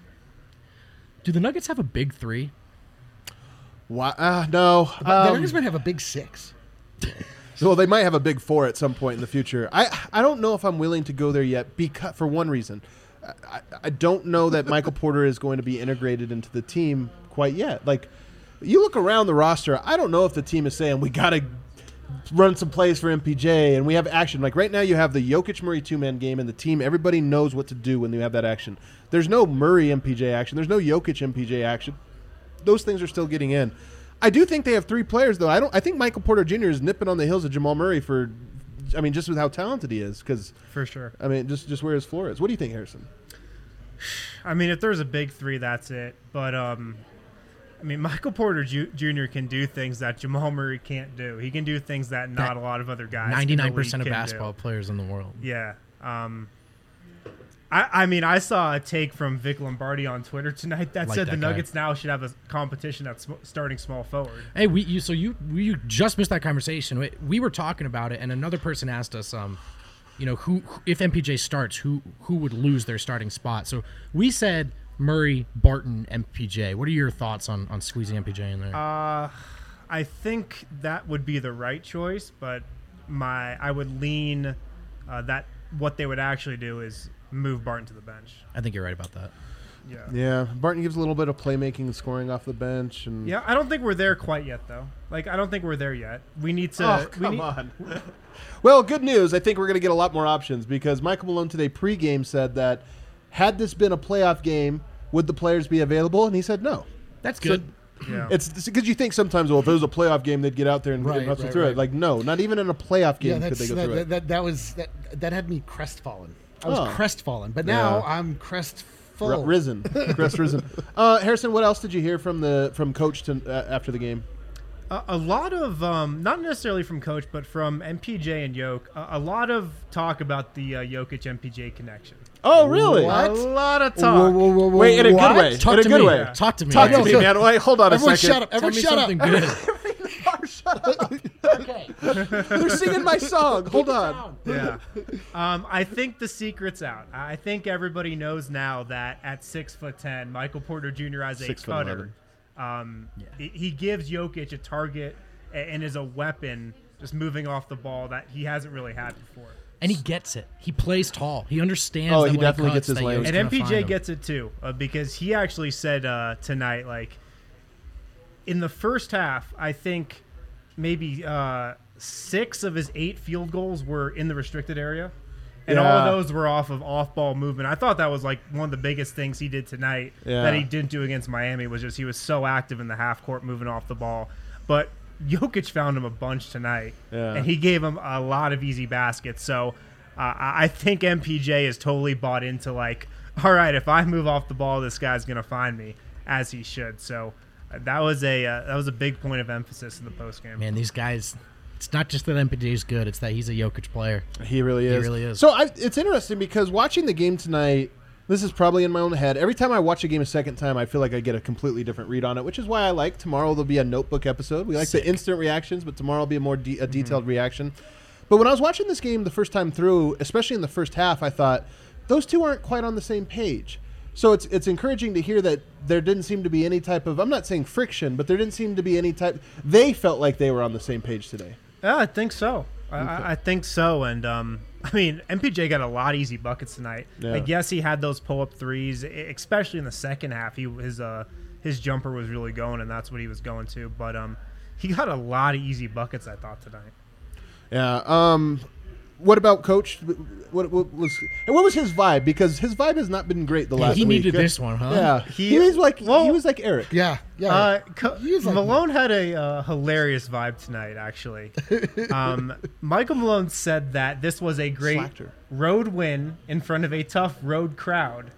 do the Nuggets have a big three? Why? Uh, no. the Um, Nuggets might have a big six. Well, they might have a big four at some point in the future. I I don't know if I'm willing to go there yet because for one reason, I, I don't know that Michael Porter is going to be integrated into the team quite yet. Like, you look around the roster, I don't know if the team is saying we got to run some plays for M P J and we have action. Like right now, you have the Jokic Murray two man game and the team. Everybody knows what to do when you have that action. There's no Murray M P J action. There's no Jokic M P J action. Those things are still getting in. I do think they have three players, though. I don't. I think Michael Porter Junior is nipping on the heels of Jamal Murray for, I mean, just with how talented he is. Because for sure. I mean, just just where his floor is. What do you think, Harrison? I mean, if there's a big three, that's it. But um, I mean, Michael Porter Ju- Junior can do things that Jamal Murray can't do. He can do things that not That a lot of other guys. ninety-nine percent in of the league can basketball do. players in the world. Yeah. Um, I, I mean, I saw a take from Vic Lombardi on Twitter tonight that Like said that the guy. Nuggets now should have a competition at sm- starting small forward. Hey, we you so you we just missed that conversation. We, we were talking about it, and another person asked us, um, you know, who who- if M P J starts, who who would lose their starting spot? So we said Murray, Barton, M P J. What are your thoughts on on squeezing M P J in there? Uh, I think that would be the right choice, but my I would lean uh, that what they would actually do is move Barton to the bench. I think you're right about that. Yeah. Yeah, Barton gives a little bit of playmaking and scoring off the bench, and Yeah, I don't think we're there quite yet, though. Like, I don't think we're there yet. We need to. Oh, we come need, on. Well, good news. I think we're going to get a lot more options because Michael Malone today pregame said that had this been a playoff game, would the players be available? And he said no. That's good. Yeah. It's because you think sometimes, well, if it was a playoff game, they'd get out there and, Right, and hustle right, through right. it. Like, no, not even in a playoff game Yeah, could that's, they go that, through that, it. that, that was that, that had me crestfallen. I was Oh. crestfallen, but now Yeah. I'm crestful. R- risen, crest risen. Uh, Harrison, what else did you hear from the from Coach to, uh, after the game? A, a lot of, um, not necessarily from Coach, but from M P J and Yoke, a, a lot of talk about the uh, Jokic M P J connection. Oh, really? What? A lot of Whoa, talk. whoa, whoa, whoa, Wait, in a what? good way. Talk in a to good me. way. Talk to me. Talk Yeah. to me, Yo, man. Wait, hold on a Everyone second. shut up. Tell Everyone me shut up. something good. They're singing my song. Hold on. Yeah. Um, I think the secret's out. I think everybody knows now that at six foot ten, Michael Porter Junior as a Six foot cutter, um, he, he gives Jokic a target a- and is a weapon just moving off the ball that he hasn't really had before. And he gets it. He plays tall. He understands. Oh, that he when definitely cuts, gets his that layers. Yo's And gonna M P find J him. gets it too uh, because he actually said uh, tonight, like, in the first half, I think maybe uh, six of his eight field goals were in the restricted area. And all Yeah. of those were off of off-ball movement. I thought that was like one of the biggest things he did tonight Yeah. that he didn't do against Miami was just he was so active in the half court moving off the ball. But Jokic found him a bunch tonight, Yeah. and he gave him a lot of easy baskets. So uh, I I think M P J is totally bought into like, all right, if I move off the ball, this guy's gonna find me, as he should. So uh, that was a uh, that was a big point of emphasis in the postgame. Man, these guys. It's not just that M P J is good; it's that he's a Jokic player. He really is. really is. So I, it's interesting because watching the game tonight, this is probably in my own head. Every time I watch a game a second time, I feel like I get a completely different read on it, which is why I like tomorrow there'll be a notebook episode. We like Sick. the instant reactions, but tomorrow will be a more de- a detailed reaction. But when I was watching this game the first time through, especially in the first half, I thought those two aren't quite on the same page. So it's it's encouraging to hear that there didn't seem to be any type of, I'm not saying friction, but there didn't seem to be any type, they felt like they were on the same page today. Yeah, I think so. I, I I think so. And, um, I mean, M P J got a lot of easy buckets tonight. Yeah. Like, yes, he had those pull-up threes, e- especially in the second half. He His uh, his jumper was really going, and that's what he was going to. But um, he got a lot of easy buckets, I thought, tonight. Yeah. Um, what about Coach? What, what was and what was his vibe? Because his vibe has not been great the Yeah, last he week. needed this one, huh? Yeah, He- he, was like well- he was like Eric. Yeah, yeah. Uh, co- He was like- Malone had a uh, hilarious vibe tonight, actually. um, Michael Malone said that this was a great Slacked her. road win in front of a tough road crowd.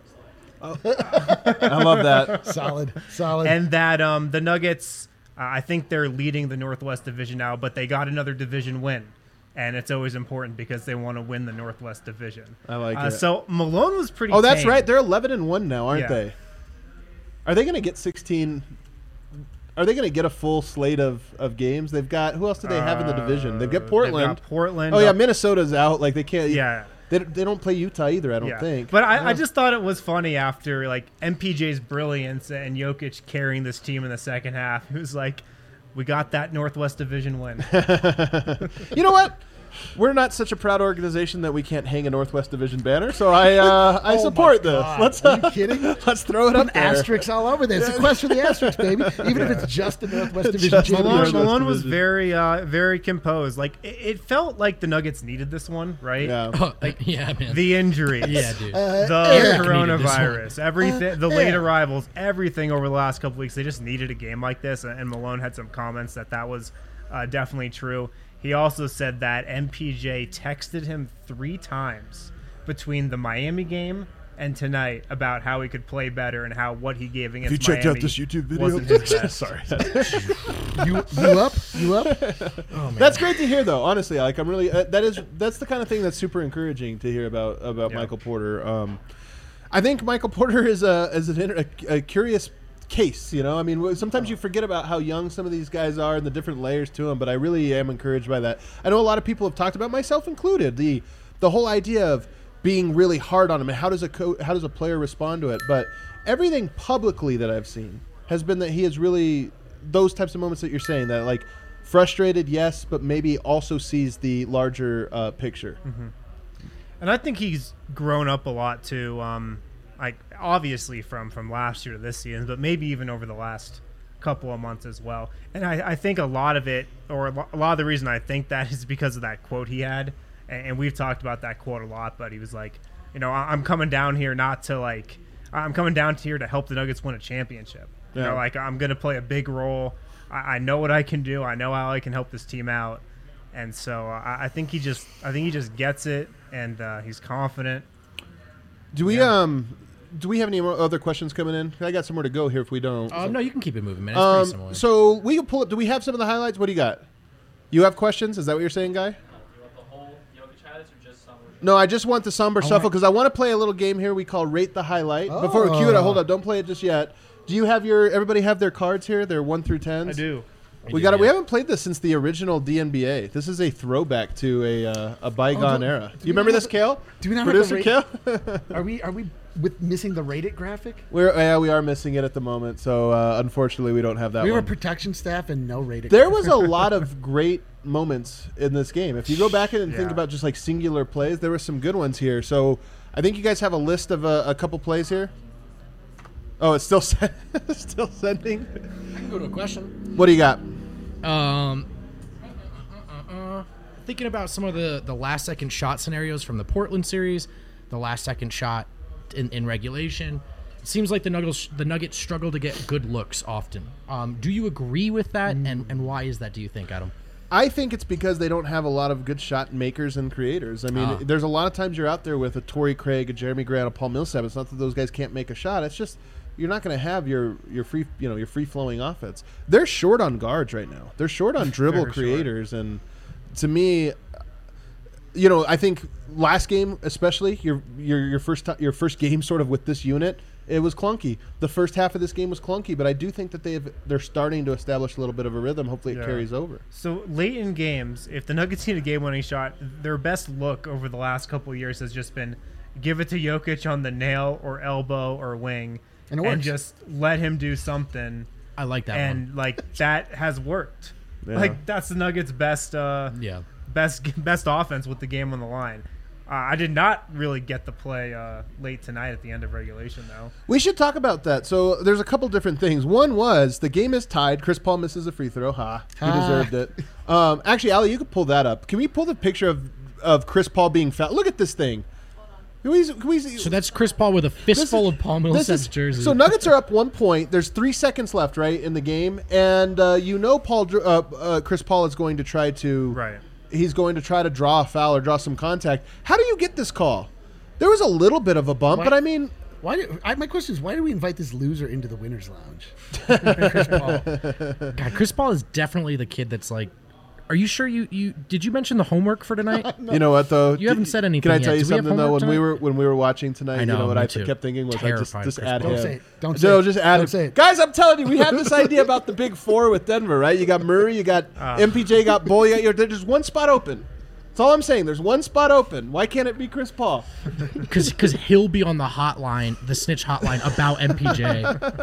I love that. solid, solid. And that um, the Nuggets, uh, I think they're leading the Northwest Division now, but they got another division win. And it's always important because they want to win the Northwest Division. I like uh, it. So Malone was pretty Oh, that's tame. right. They're eleven and one now, aren't Yeah. they? Are they going to get sixteen? Are they going to get a full slate of, of games? They've got who else do they have in the division? They've got Uh, Portland. They've got Portland. Oh yeah, up- Minnesota's out. Like they can't. Yeah. They, they don't play Utah either. I don't Yeah. think. But I, I just thought it was funny after like M P J's brilliance and Jokic carrying this team in the second half. It was like, we got that Northwest Division win. You know what? We're not such a proud organization that we can't hang a Northwest Division banner. So I uh, I Oh, support my this. God. Let's Are you uh, kidding? let's throw it Put up there. asterisks all over this. It's a quest for the asterisks, baby. Even if it's just the Northwest Division Just champion. Malone, Northwest Malone was Division. very, uh, very composed. Like it, it felt like the Nuggets needed this one, right? Yeah. Oh, yeah, man. The injuries, yeah, dude. Uh, the Eric coronavirus, everything, the Uh, late Eric. arrivals, everything over the last couple weeks. They just needed a game like this, and Malone had some comments that that was uh, definitely true. He also said that M P J texted him three times between the Miami game and tonight about how he could play better and how what he gave against Have you checked Miami out this YouTube video? wasn't his best. Sorry. You you up? You up? Oh, man. That's great to hear, though. Honestly, like I'm really uh, that is that's the kind of thing that's super encouraging to hear about about Yeah. Michael Porter. Um, I think Michael Porter is a is an, inter- a, a curious case. You know, I mean, sometimes you forget about how young some of these guys are and the different layers to them. But I really am encouraged by that. I know a lot of people have talked about, myself included, the the whole idea of being really hard on him and how does a co- how does a player respond to it. But everything publicly that I've seen has been that he is really those types of moments that you're saying, that like frustrated, yes, but maybe also sees the larger uh, picture. Mm-hmm. And I think he's grown up a lot too. Um, like obviously from from last year to this season, but maybe even over the last couple of months as well. And I, I think a lot of it, or a lo- a lot of the reason I think that is because of that quote he had. And, and we've talked about that quote a lot. But he was like, you know, I, I'm coming down here not to like, I'm coming down here to help the Nuggets win a championship. You Yeah. know, like I'm going to play a big role. I, I know what I can do. I know how I can help this team out. And so uh, I, I think he just, I think he just gets it, and uh, he's confident. Do we Yeah. um do we have any more other questions coming in? I got somewhere to go here if we don't. Um, no, you can keep it moving, man. It's Um, pretty similar. so we can pull up. Do we have some of the highlights? What do you got? You have questions? Is that what you're saying, Guy? No, I just want the somber shuffle because I want to play a little game here we call Rate the Highlight. Before we cue it, Oh. hold up, don't play it just yet. Do you have your? Everybody have their cards here? They're one through tens. I do. We do, got. We yeah. haven't played this since the original D N B A. This is a throwback to a uh, a bygone do- era. do You we remember not this, have- Kale? do we not have Producer the Kale? Are we are we with missing the rate it graphic? We're yeah, we are missing it at the moment. So uh, unfortunately, we don't have that We have one. a protection staff and no rate it. There was a lot of great moments in this game. If you go back and think Yeah. about just like singular plays, there were some good ones here. So I think you guys have a list of uh, a couple plays here. Oh, it's still sen- still sending. I can go to a question. What do you got? Um, uh, uh, uh, thinking about some of the, the last second shot scenarios from the Portland series, the last second shot in, in regulation. It seems like the Nuggets the Nuggets struggle to get good looks often. Um, do you agree with that? And and why is that? Do you think, Adam? I think it's because they don't have a lot of good shot makers and creators. I mean, Ah. there's a lot of times you're out there with a Torrey Craig, a Jeremy Grant, a Paul Millsap. It's not that those guys can't make a shot. It's just you're not going to have your your free you know your free flowing offense. They're short on guards right now. They're short on dribble Very short. creators, and to me, you know, I think last game especially your your your first ti- your first game sort of with this unit. It was clunky. The first half of this game was clunky, but I do think that they've they're starting to establish a little bit of a rhythm. Hopefully, it Yeah. carries over. So late in games, if the Nuggets need a game-winning shot, their best look over the last couple of years has just been give it to Jokic on the nail or elbow or wing, And it works. just let him do something. I like that and one. like that has worked. Yeah. Like that's the Nuggets' best, uh, Yeah. best, best offense with the game on the line. Uh, I did not really get the play uh, late tonight at the end of regulation, though. We should talk about that. So there's a couple different things. One was the game is tied. Chris Paul misses a free throw. Ha, he Ha. deserved it. Um, actually, Ali, you could pull that up. Can we pull the picture of of Chris Paul being fouled? Look at this thing. Can we, can we, So that's Chris Paul with a This fistful is- of Paul this Millsap's is- jersey. So Nuggets are up one point. There's three seconds left, right, in the game, and uh, you know Paul, Dr- uh, uh, Chris Paul is going to try to, Right. He's going to try to draw a foul or draw some contact. How do you get this call? There was a little bit of a bump, Why- but I mean, Why? Do, I, my question is, why do we invite this loser into the winners' lounge? Chris Paul. God, Chris Paul is definitely the kid that's like. Are you sure you, you did you mention the homework for tonight? you know what though? You haven't said anything Can I yet. tell you Do we have something though? homework When we tonight? were when we were watching tonight, I know, you know what me I too. kept thinking was I just Terrified just Chris add Paul. him. Don't say it. Don't say no, it. just add Don't him. say it. Guys, I'm telling you, we have this idea about the big four with Denver, right? You got Murray, you got Ah. M P J, got Bull, you got your, there's one spot open. That's all I'm saying. There's one spot open. Why can't it be Chris Paul? Because because he'll be on the hotline, the snitch hotline about M P J.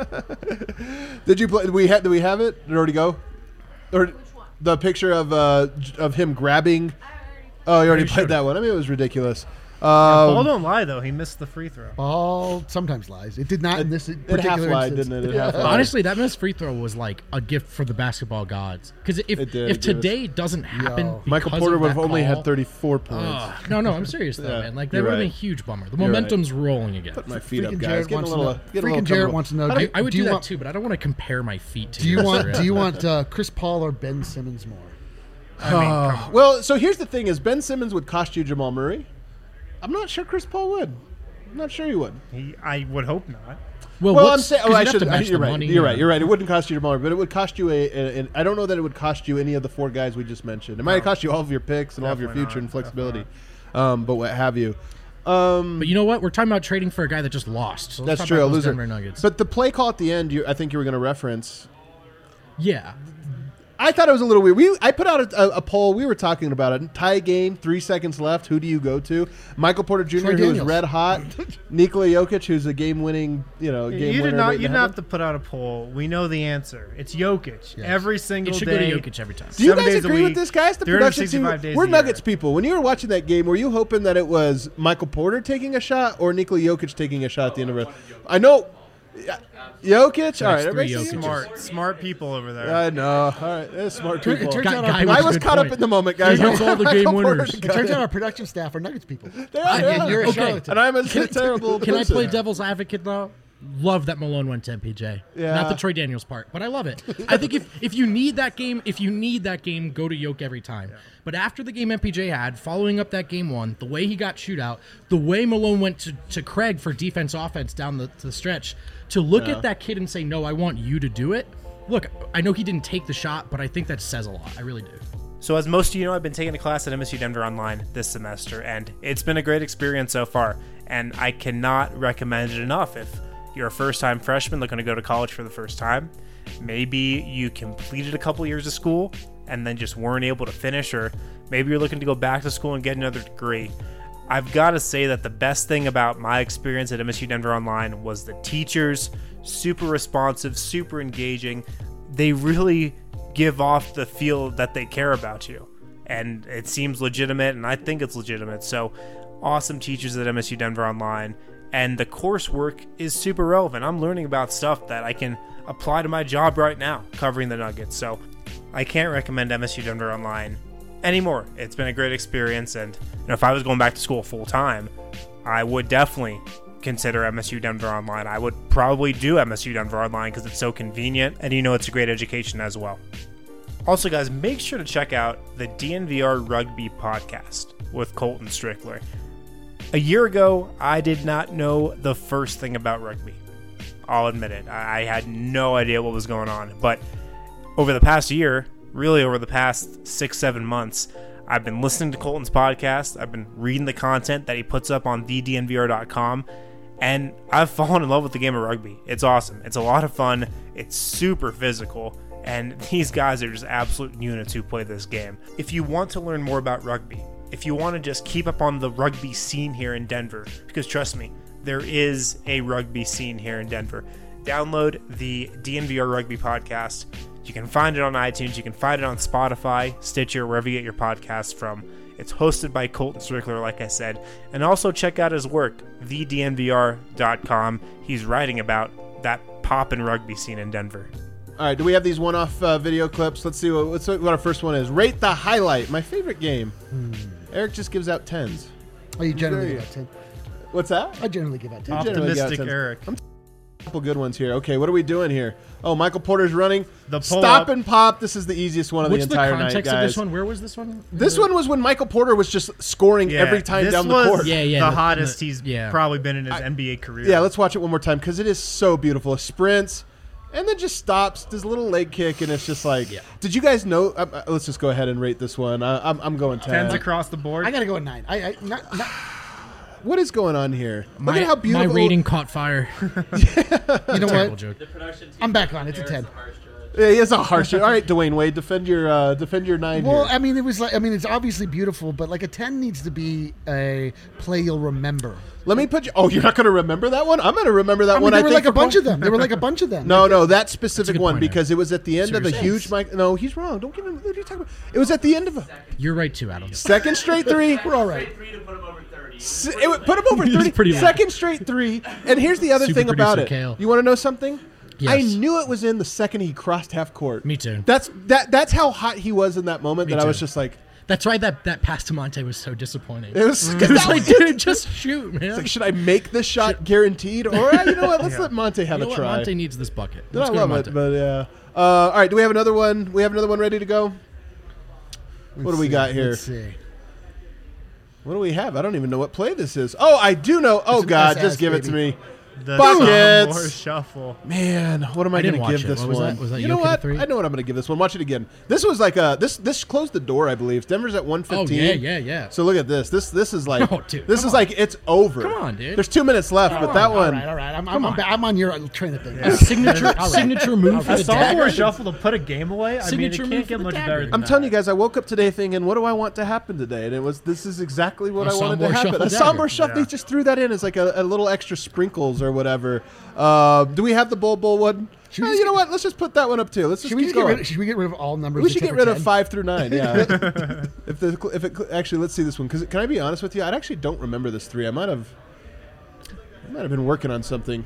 Did you play? Did we have? Did we have it? Did it already go? Or the picture of uh j- of him grabbing? Oh, you already You played showed that one. I mean, it was ridiculous. Um, Paul don't lie though; he missed the free throw. Paul sometimes lies. It did not in this it half particular lied, instance. didn't it? It half lied. Honestly, that missed free throw was like a gift for the basketball gods. Because if It did, if it did. today doesn't happen, Yo. Michael because Porter of would have that only call, had thirty-four points. ugh. no, no, I'm serious though, Yeah, man. Like that you're would have been right. a huge bummer. The You're momentum's rolling again. Put my feet up, Freaking guys. Jarrett Get a wants to little, know. get a Freaking little Jarrett comfortable. wants to know. How do do you- I would do do, you that want, too, but I don't want to compare my feet to Do you yours, want? right? Do you want uh, Chris Paul or Ben Simmons more? I mean, come on. Well, so here's the thing: is Ben Simmons would cost you Jamal Murray? I'm not sure Chris Paul would. I'm not sure you would. He, I would hope not. Well, Well, I'm what's- saying, 'cause oh, I you'd have should. to match You're the right. money, You're right. yeah. You're right. It wouldn't cost you your money, but it would cost you a, a, a. I don't know that it would cost you any of the four guys we just mentioned. It might No. cost you all of your picks and all of your Definitely future not. and flexibility, Definitely um, but what have you. Um, But you know what? We're talking about trading for a guy that just lost. So let's that's talk true. about A those loser. Denver Nuggets. But the play call at the end, you, I think you were going to reference. yeah. I thought it was a little weird. We I put out a, a, a poll. We were talking about it. Tie game, three seconds left. Who do you go to? Michael Porter Junior, Troy who is Daniels. red hot. Nikola Jokic, who's a game-winning, you know, game You winner. did not. waiting You to didn't happen. have to put out a poll. We know the answer. It's Jokic. Every single It should day. go to Jokic every time. Do you seven guys days a agree with week, this, guys? The production team. three hundred sixty-five days We're a year. Nuggets people. When you were watching that game, were you hoping that it was Michael Porter taking a shot or Nikola Jokic taking a shot at the end of it? I know. yeah, Jokic. All right, three everybody see Jokic's. him? Smart, smart people over there. I know. All right, they're smart Tur- it people. turns Guy- out guy our, was I a was good caught point. up in the moment, guys. He knows all the game Michael Porter winners. the it guy. turns out our production staff are Nuggets people. They are, And, they and are. you're a Okay. charlatan. And I'm a terrible. Can I person. play devil's advocate though? Love that Malone went to M P J. Yeah. Not the Troy Daniels part, but I love it. I think if, if you need that game, if you need that game, go to Yoke every time. But after the game M P J had, following up that game one, the way he got shootout, the way Malone went to, to Craig for defense offense down the, the stretch, to look Yeah. at that kid and say, no, I want you to do it. Look, I know he didn't take the shot, but I think that says a lot. I really do. So as most of you know, I've been taking a class at M S U Denver Online this semester, and it's been a great experience so far. And I cannot recommend it enough. If you're a first-time freshman looking to go to college for the first time, maybe you completed a couple years of school and then just weren't able to finish, or maybe you're looking to go back to school and get another degree. I've got to say that the best thing about my experience at M S U Denver Online was the teachers, super responsive, super engaging. They really give off the feel that they care about you, and it seems legitimate, and I think it's legitimate. So awesome teachers at M S U Denver Online, and the coursework is super relevant. I'm learning about stuff that I can apply to my job right now covering the Nuggets. So I can't recommend M S U Denver Online anymore. It's been a great experience, and you know, if I was going back to school full time, I would definitely consider M S U Denver Online. I would probably do M S U Denver Online because it's so convenient, and you know it's a great education as well. Also, guys, make sure to check out the D N V R Rugby podcast with Colton Strickler. A year ago, I did not know the first thing about rugby. I'll admit it. I had no idea what was going on. But over the past year, really over the past six, seven months, I've been listening to Colton's podcast. I've been reading the content that he puts up on the D N V R dot com. And I've fallen in love with the game of rugby. It's awesome. It's a lot of fun. It's super physical. And these guys are just absolute units who play this game. If you want to learn more about rugby, if you want to just keep up on the rugby scene here in Denver, because trust me, there is a rugby scene here in Denver, download the D N V R Rugby podcast. You can find it on iTunes. You can find it on Spotify, Stitcher, wherever you get your podcasts from. It's hosted by Colton Strickler, like I said. And also check out his work, the D N V R dot com. He's writing about that poppin' rugby scene in Denver. All right, do we have these one-off uh, video clips? Let's see what, what's, what our first one is. Rate the highlight. My favorite game. Hmm. Eric just gives out tens. Oh, you generally Very- give out ten. What's that? I generally give out ten. generally got Optimistic tens. Eric. A couple good ones here. Okay, what are we doing here? Oh, Michael Porter's running. The Stop pull-up. and pop. This is the easiest one of What's the the entire context night, guys. of this one? Where was this one? This one was when Michael Porter was just scoring Yeah, every time this down the was court. Yeah, yeah, the the- hottest the- he's yeah. probably been in his N B A career. Yeah, let's watch it one more time because it is so beautiful. It sprints and then just stops, does a little leg kick, and it's just like, Yeah. did you guys know? Uh, uh, let's just go ahead and rate this one. Uh, I'm, I'm going ten. Tens across the board. I gotta go a nine. I, I not, not, What is going on here? My, Look at how beautiful. my rating caught fire. you know Terrible what? joke. The production team I'm back on. It's a ten. Yeah, it's a harsh. All right, Dwayne Wade, defend your uh, defend your nine Well, here. I mean, it was like I mean, it's obviously beautiful, but like a ten needs to be a play you'll remember. Let me put you. Oh, you're not going to remember that one? I'm going to remember that I mean, one. there I were think like a for bunch pro- of them. There were like a bunch of them. No, no, that specific good one point, Eric. because it was at the end of a Seriously. huge mic. No, he's wrong. Don't give him. What are you talking about? It was at the end of a You're right too, Adam. second straight three. We're all right. three to put him over thirty. S- It would put him over He's thirty. pretty low. Second straight three. And here's the other Super thing about it. producer Kale. You want to know something? I Yes. knew it was in the second he crossed half court. Me too. That's that. That's how hot he was in that moment. Me that I too. was just like, That's why that, that pass to Monte was so disappointing. it was. It was like, dude, just shoot, man. It's like, should I make this shot guaranteed, or uh, you know what? Let's let Monte have you know a what? try. Monte needs this bucket. No, Let's I go to love Monte. it, but yeah. Uh, all right, do we have another one? We have another one ready to go. What do we Let's got see, here? Let's see. What do we have? I don't even know what play this is. Oh, I do know. Oh, It's an God, S S, just give it to baby. me. The Buckets! Sophomore Shuffle. Man, what am I, I didn't going to watch give it. this What was one? that? Was that you know Jokic at what? three? I know what I'm going to give this one. Watch it again. This was like a this this closed the door, I believe. Denver's at one Oh fifteen. yeah, yeah, yeah. So look at this. This this is like Oh, dude, this come is on. like it's over. Come on, dude. There's two minutes left, but that All one. right, all right. I'm, I'm, I'm, I'm on your train of things. A signature All right. signature move for A the sophomore dagger. shuffle to put a game away. I Signature mean, it move can't for get the much dagger. better than I'm that. telling you guys, I woke up today thinking, what do I want to happen today? And it was this is exactly what A I wanted to Sombor happen. shuffle A dagger. somber shuffle. Yeah. They just threw that in as like a, a little extra sprinkles or whatever. Uh, do we have the Bull Bull one? Should we Uh, just you know get- what? Let's just put that one up too. Let's just Should we, keep just get going. rid of, should we get rid of all numbers? We should get except rid for of ten? five through nine. Yeah. if the if it actually, let's see this one. Because can I be honest with you? I actually don't remember this three. I might have. I might have been working on something.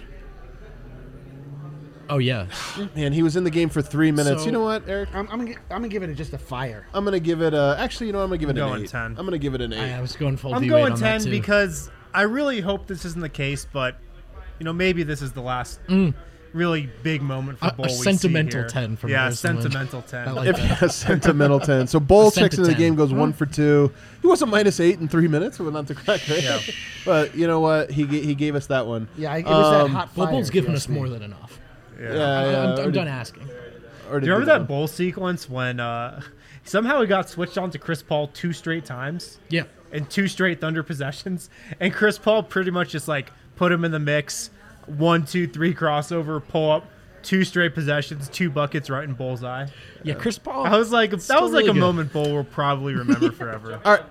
Oh yeah. Man, he was in the game for three minutes. So- you know what, Eric? I'm, I'm, gonna, gi- I'm gonna give it a, just a fire. I'm gonna give it a. Actually, you know, what? I'm gonna give it I'm an going eight. ten. I'm gonna give it an eight. I, I was going full I'm D-weight going on that ten too. because I really hope this isn't the case, but you know maybe this is the last really big moment for A- a Bull. we see sentimental here. ten from yeah, Harrison Lynch. sentimental ten. I like If that. a sentimental ten. So Bull A cent checks to into the ten. game, goes one for two. He was a minus eight in three minutes. Well, not the correct, right? Yeah. But you know what? He ga- he gave us that one. Yeah, it was that Um, hot fire. Football's if you given ask us me. more than enough. yeah. Yeah, yeah. I'm, I'm already- done asking. already Do you remember did that one. Bull sequence when uh, somehow he got switched on to Chris Paul two straight times? Yeah. And two straight Thunder possessions, and Chris Paul pretty much just like put him in the mix. One, two, three crossover, pull up, two straight possessions, two buckets right in Bullseye. Yeah, Chris Paul. I was like, that Still was like really a good. moment Bull will probably remember forever. All right.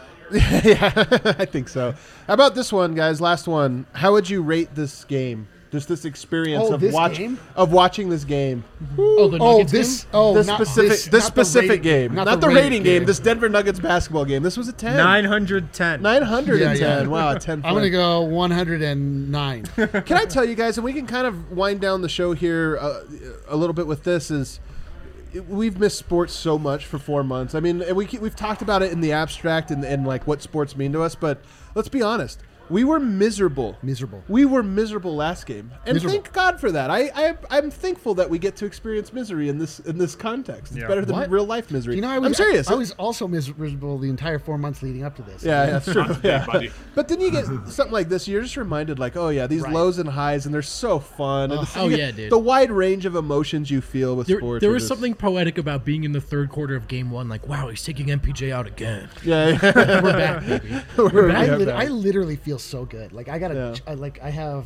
Yeah, I think so. How about this one, guys? Last one. How would you rate this game? Just this experience Oh, of this watch game? of watching this game. Oh, the Oh, Nuggets this. game? Oh, this not specific this, this not the specific rating- game, not, the, rating game. This Denver Nuggets basketball game. This was a ten. nine hundred ten. Nine hundred and Yeah, ten. yeah. Wow, a ten. I'm gonna go one hundred nine. Can I tell you guys, and we can kind of wind down the show here uh, a little bit with this, is we've missed sports so much for four months. I mean, and we, we've talked about it in the abstract and, and like what sports mean to us, but let's be honest. We were miserable. Miserable. We were miserable last game, and Miserable. thank God for that. I, I I'm thankful that we get to experience misery in this in this context. It's Yeah. better than What? real life misery. You know, I was I'm serious. I, I was also miserable the entire four months leading up to this. Yeah, yeah, that's true. Yeah. buddy. But then you get something like this, you're just reminded, like, oh yeah, these Right. lows and highs, and they're so fun. And Oh, it's- oh, you yeah, get dude. The wide range of emotions you feel with There, sports. there are was just- something poetic about being in the third quarter of game one. Like, wow, he's taking M P J out again. Yeah, yeah. We're back, baby. We're I, right lit- back. I literally feel so good. Like I got a, Yeah. I, like I have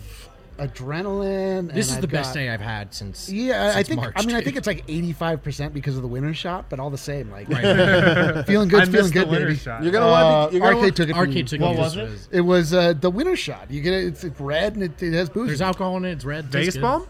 adrenaline. This and is the I've best got- day I've had since. Yeah, I since think. March, I mean, I dude. think it's like eighty-five percent because of the winner shot, but all the same, like Right. feeling I good, feeling missed the good, winner baby. shot. You're gonna Uh, want. You're gonna Arcade want, took it. Arcade from, took What it. was This it? It was uh, the winner shot. You get it. It's, it's red and it, it has booze. There's alcohol in it. It's red. Vegas tastes good. bomb?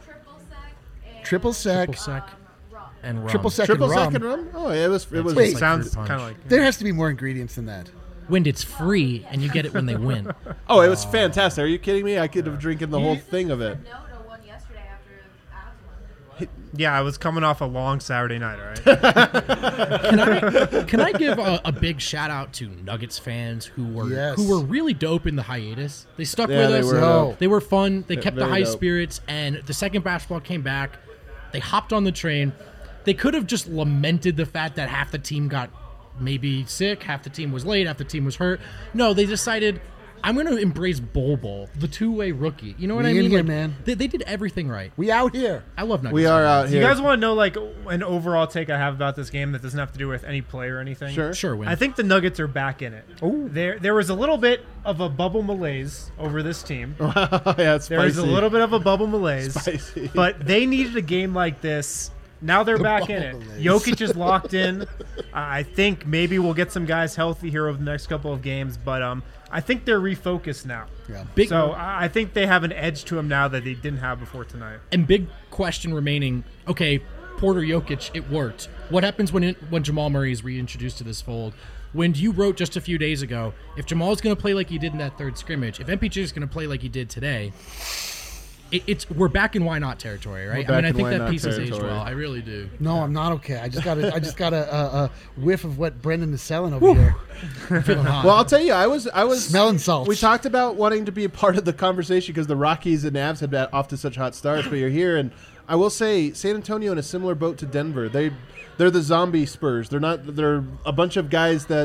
triple sec. Triple sec and rum. Triple sec. triple and rum. second rum. Oh, yeah, it was. It was. Wait. Sounds Fruit punch. kind of like. There has to be more ingredients than that. Wind, it's free, and you get it when they win. Oh, it was fantastic. Are you kidding me? I could have drinking the whole thing of it. No, no one yesterday after Avs won. Yeah, I was coming off a long Saturday night, all right? Can I can I give a, a big shout out to Nuggets fans who were Yes. who were really dope in the hiatus. They stuck Yeah, with they us. were No. dope. They were fun. They kept the very high dope. spirits, and the second basketball came back, they hopped on the train. They could have just lamented the fact that half the team got maybe sick, half the team was late, half the team was hurt. No, they decided, I'm going to embrace Bol Bol, the two-way rookie. You know what We I in mean? here, Like, man. They, they did everything right. We out here. I love Nuggets. We are fans. out Do here. you guys want to know like an overall take I have about this game that doesn't have to do with any play or anything? Sure. Sure, Win. I think the Nuggets are back in it. There, there was a little bit of a bubble malaise over this team. yeah, it's There was a spicy. little bit of a bubble malaise, Spicy. but they needed a game like this. Now they're back in it. bubble malaise. Jokic is locked in. I think maybe we'll get some guys healthy here over the next couple of games, but um, I think they're refocused now. Yeah. Big, So I I think they have an edge to them now that they didn't have before tonight. and big question remaining. Okay, Porter Jokic, it worked. What happens when it, when Jamal Murray is reintroduced to this fold? When you wrote just a few days ago, if Jamal is going to play like he did in that third scrimmage, if M P J is going to play like he did today, it, it's we're back in why not territory, right? We're I mean, back I in think why that not piece has aged territory. well. I really do. No, I'm not okay. I just got a, I just got a, a, a whiff of what Brendan is selling over here. I'm feeling hot. Well, I'll tell you, I was, I was Smelling salts. We talked about wanting to be a part of the conversation because the Rockies and Avs had been off to such hot starts, but you're here, and I will say, San Antonio in a similar boat to Denver. They, they're the zombie Spurs. They're not. They're a bunch of guys that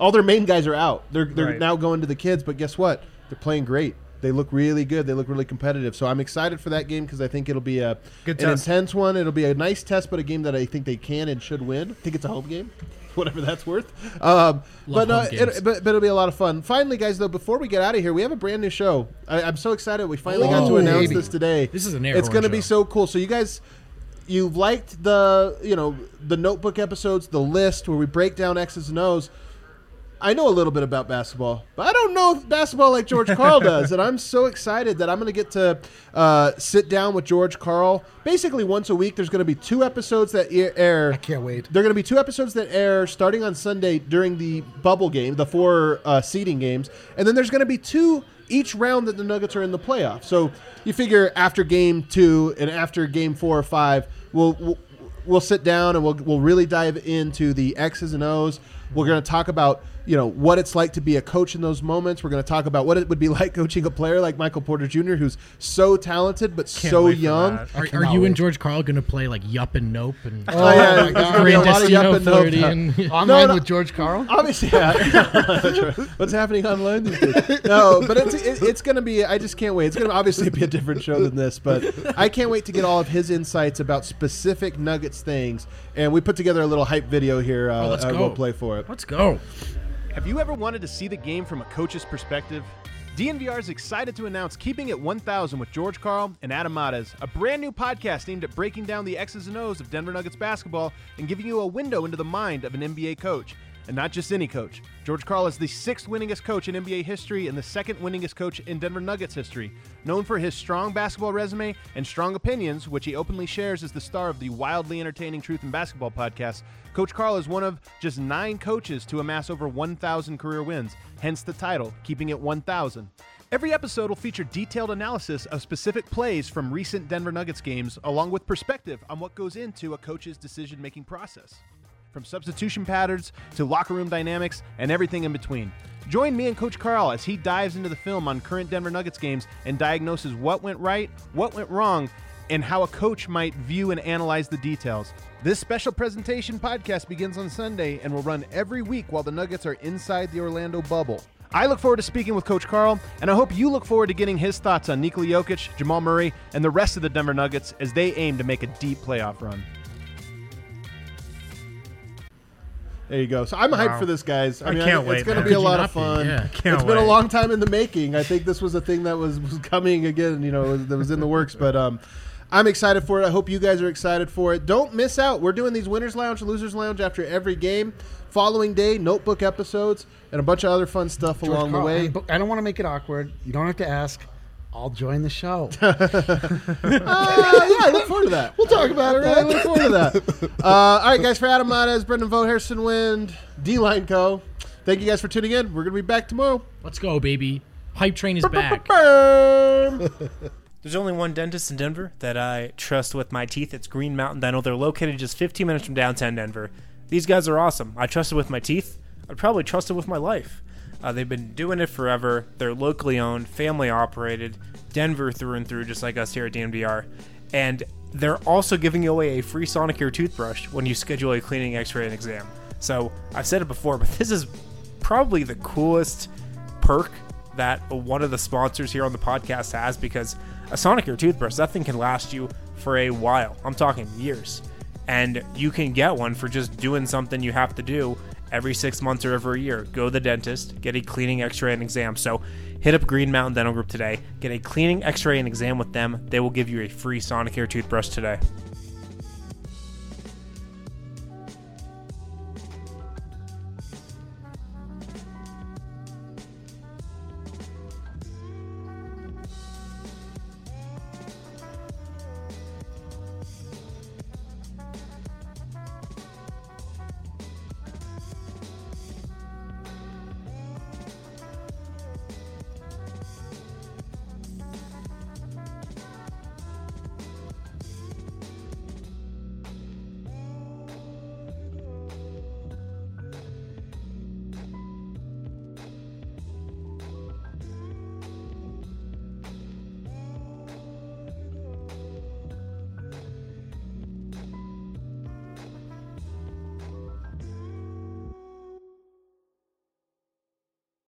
all their main guys are out. They're they're Right. now going to the kids, but guess what? They're playing great. They look really good. They look really competitive. So I'm excited for that game because I think it'll be a Good an test. intense one. It'll be a nice test, but a game that I think they can and should win. I think it's a home game, whatever that's worth. Um, but, no, home games. it, but but it'll be a lot of fun. Finally, guys, though, before we get out of here, we have a brand new show. I, I'm so excited. We finally got to Oh, announce baby. this today. This is an air It's horn going to be show. so cool. So you guys. You've liked the, you know, the notebook episodes, the list where we break down X's and O's. I know a little bit about basketball, but I don't know basketball like George Karl does. And I'm so excited that I'm going to get to uh, sit down with George Karl. Basically, once a week, there's going to be two episodes that air- air. I can't wait. There are going to be two episodes that air starting on Sunday during the bubble game, the four uh, seeding games. And then there's going to be two each round that the Nuggets are in the playoffs. So you figure after game two and after game four or five, we'll we'll, we'll sit down and we'll we'll really dive into the X's and O's. We're going to talk about, you know, what it's like to be a coach in those moments. We're going to talk about what it would be like coaching a player like Michael Porter Junior, who's so talented but Can't so wait for young. that. Are, are cannot you wait. and George Karl going to play like Yup and Nope and Oh, yeah, there's there's gonna be a lot of yup and nope. Floridian? Online no. with George Karl. Obviously, yeah. What's happening online these days? No, but it's it, it's going to be. I just can't wait. It's going to obviously be a different show than this, but I can't wait to get all of his insights about specific Nuggets things. And we put together a little hype video here. Uh, Oh, let's uh, go. We'll play for it. Let's go. Have you ever wanted to see the game from a coach's perspective? D N V R is excited to announce Keeping It one thousand with George Karl and Adam Mares, a brand new podcast aimed at breaking down the X's and O's of Denver Nuggets basketball and giving you a window into the mind of an N B A coach. And not just any coach. George Karl is the sixth winningest coach in N B A history and the second winningest coach in Denver Nuggets history. Known for his strong basketball resume and strong opinions, which he openly shares as the star of the wildly entertaining Truth in Basketball podcast, Coach Karl is one of just nine coaches to amass over one thousand career wins, hence the title, Keeping It one thousand. Every episode will feature detailed analysis of specific plays from recent Denver Nuggets games, along with perspective on what goes into a coach's decision-making process. From substitution patterns to locker room dynamics and everything in between. Join me and Coach Karl as he dives into the film on current Denver Nuggets games and diagnoses what went right, what went wrong, and how a coach might view and analyze the details. This special presentation podcast begins on Sunday and will run every week while the Nuggets are inside the Orlando bubble. I look forward to speaking with Coach Karl, and I hope you look forward to getting his thoughts on Nikola Jokic, Jamal Murray, and the rest of the Denver Nuggets as they aim to make a deep playoff run. There you go. So I'm hyped Wow. for this, guys. I, I mean, can't I, wait, It's going to man. be a Could you lot not of be? fun. Yeah. Can't It's been a wait. long time in the making. I think this was a thing that was, was coming again, you know, that was in the works. But um, I'm excited for it. I hope you guys are excited for it. Don't miss out. We're doing these Winners Lounge, Losers Lounge after every game. Following day, notebook episodes, and a bunch of other fun stuff George along the Karl, way. and- but I don't want to make it awkward. You don't have to ask. I'll join the show. Uh, yeah, I look forward to that. We'll talk about it. I look forward to that. Uh, all right, guys, for Adam Mares, Brendan Vogt, Harrison Wind, D-Line Co., thank you guys for tuning in. We're going to be back tomorrow. Let's go, baby. Hype train is back. There's only one dentist in Denver that I trust with my teeth. It's Green Mountain Dental. They're located just fifteen minutes from downtown Denver. These guys are awesome. I trust it with my teeth. I'd probably trust it with my life. Uh, they've been doing it forever. They're locally owned, family operated, Denver through and through, just like us here at D N V R. And they're also giving away a free Sonicare toothbrush when you schedule a cleaning, x-ray, and exam. So I've said it before, but this is probably the coolest perk that one of the sponsors here on the podcast has, because a Sonicare toothbrush, that thing can last you for a while. I'm talking years. And you can get one for just doing something you have to do every six months or every year. Go to the dentist, get a cleaning, x-ray, and exam. So hit up Green Mountain Dental Group today. Get a cleaning, x-ray, and exam with them. They will give you a free Sonicare toothbrush today.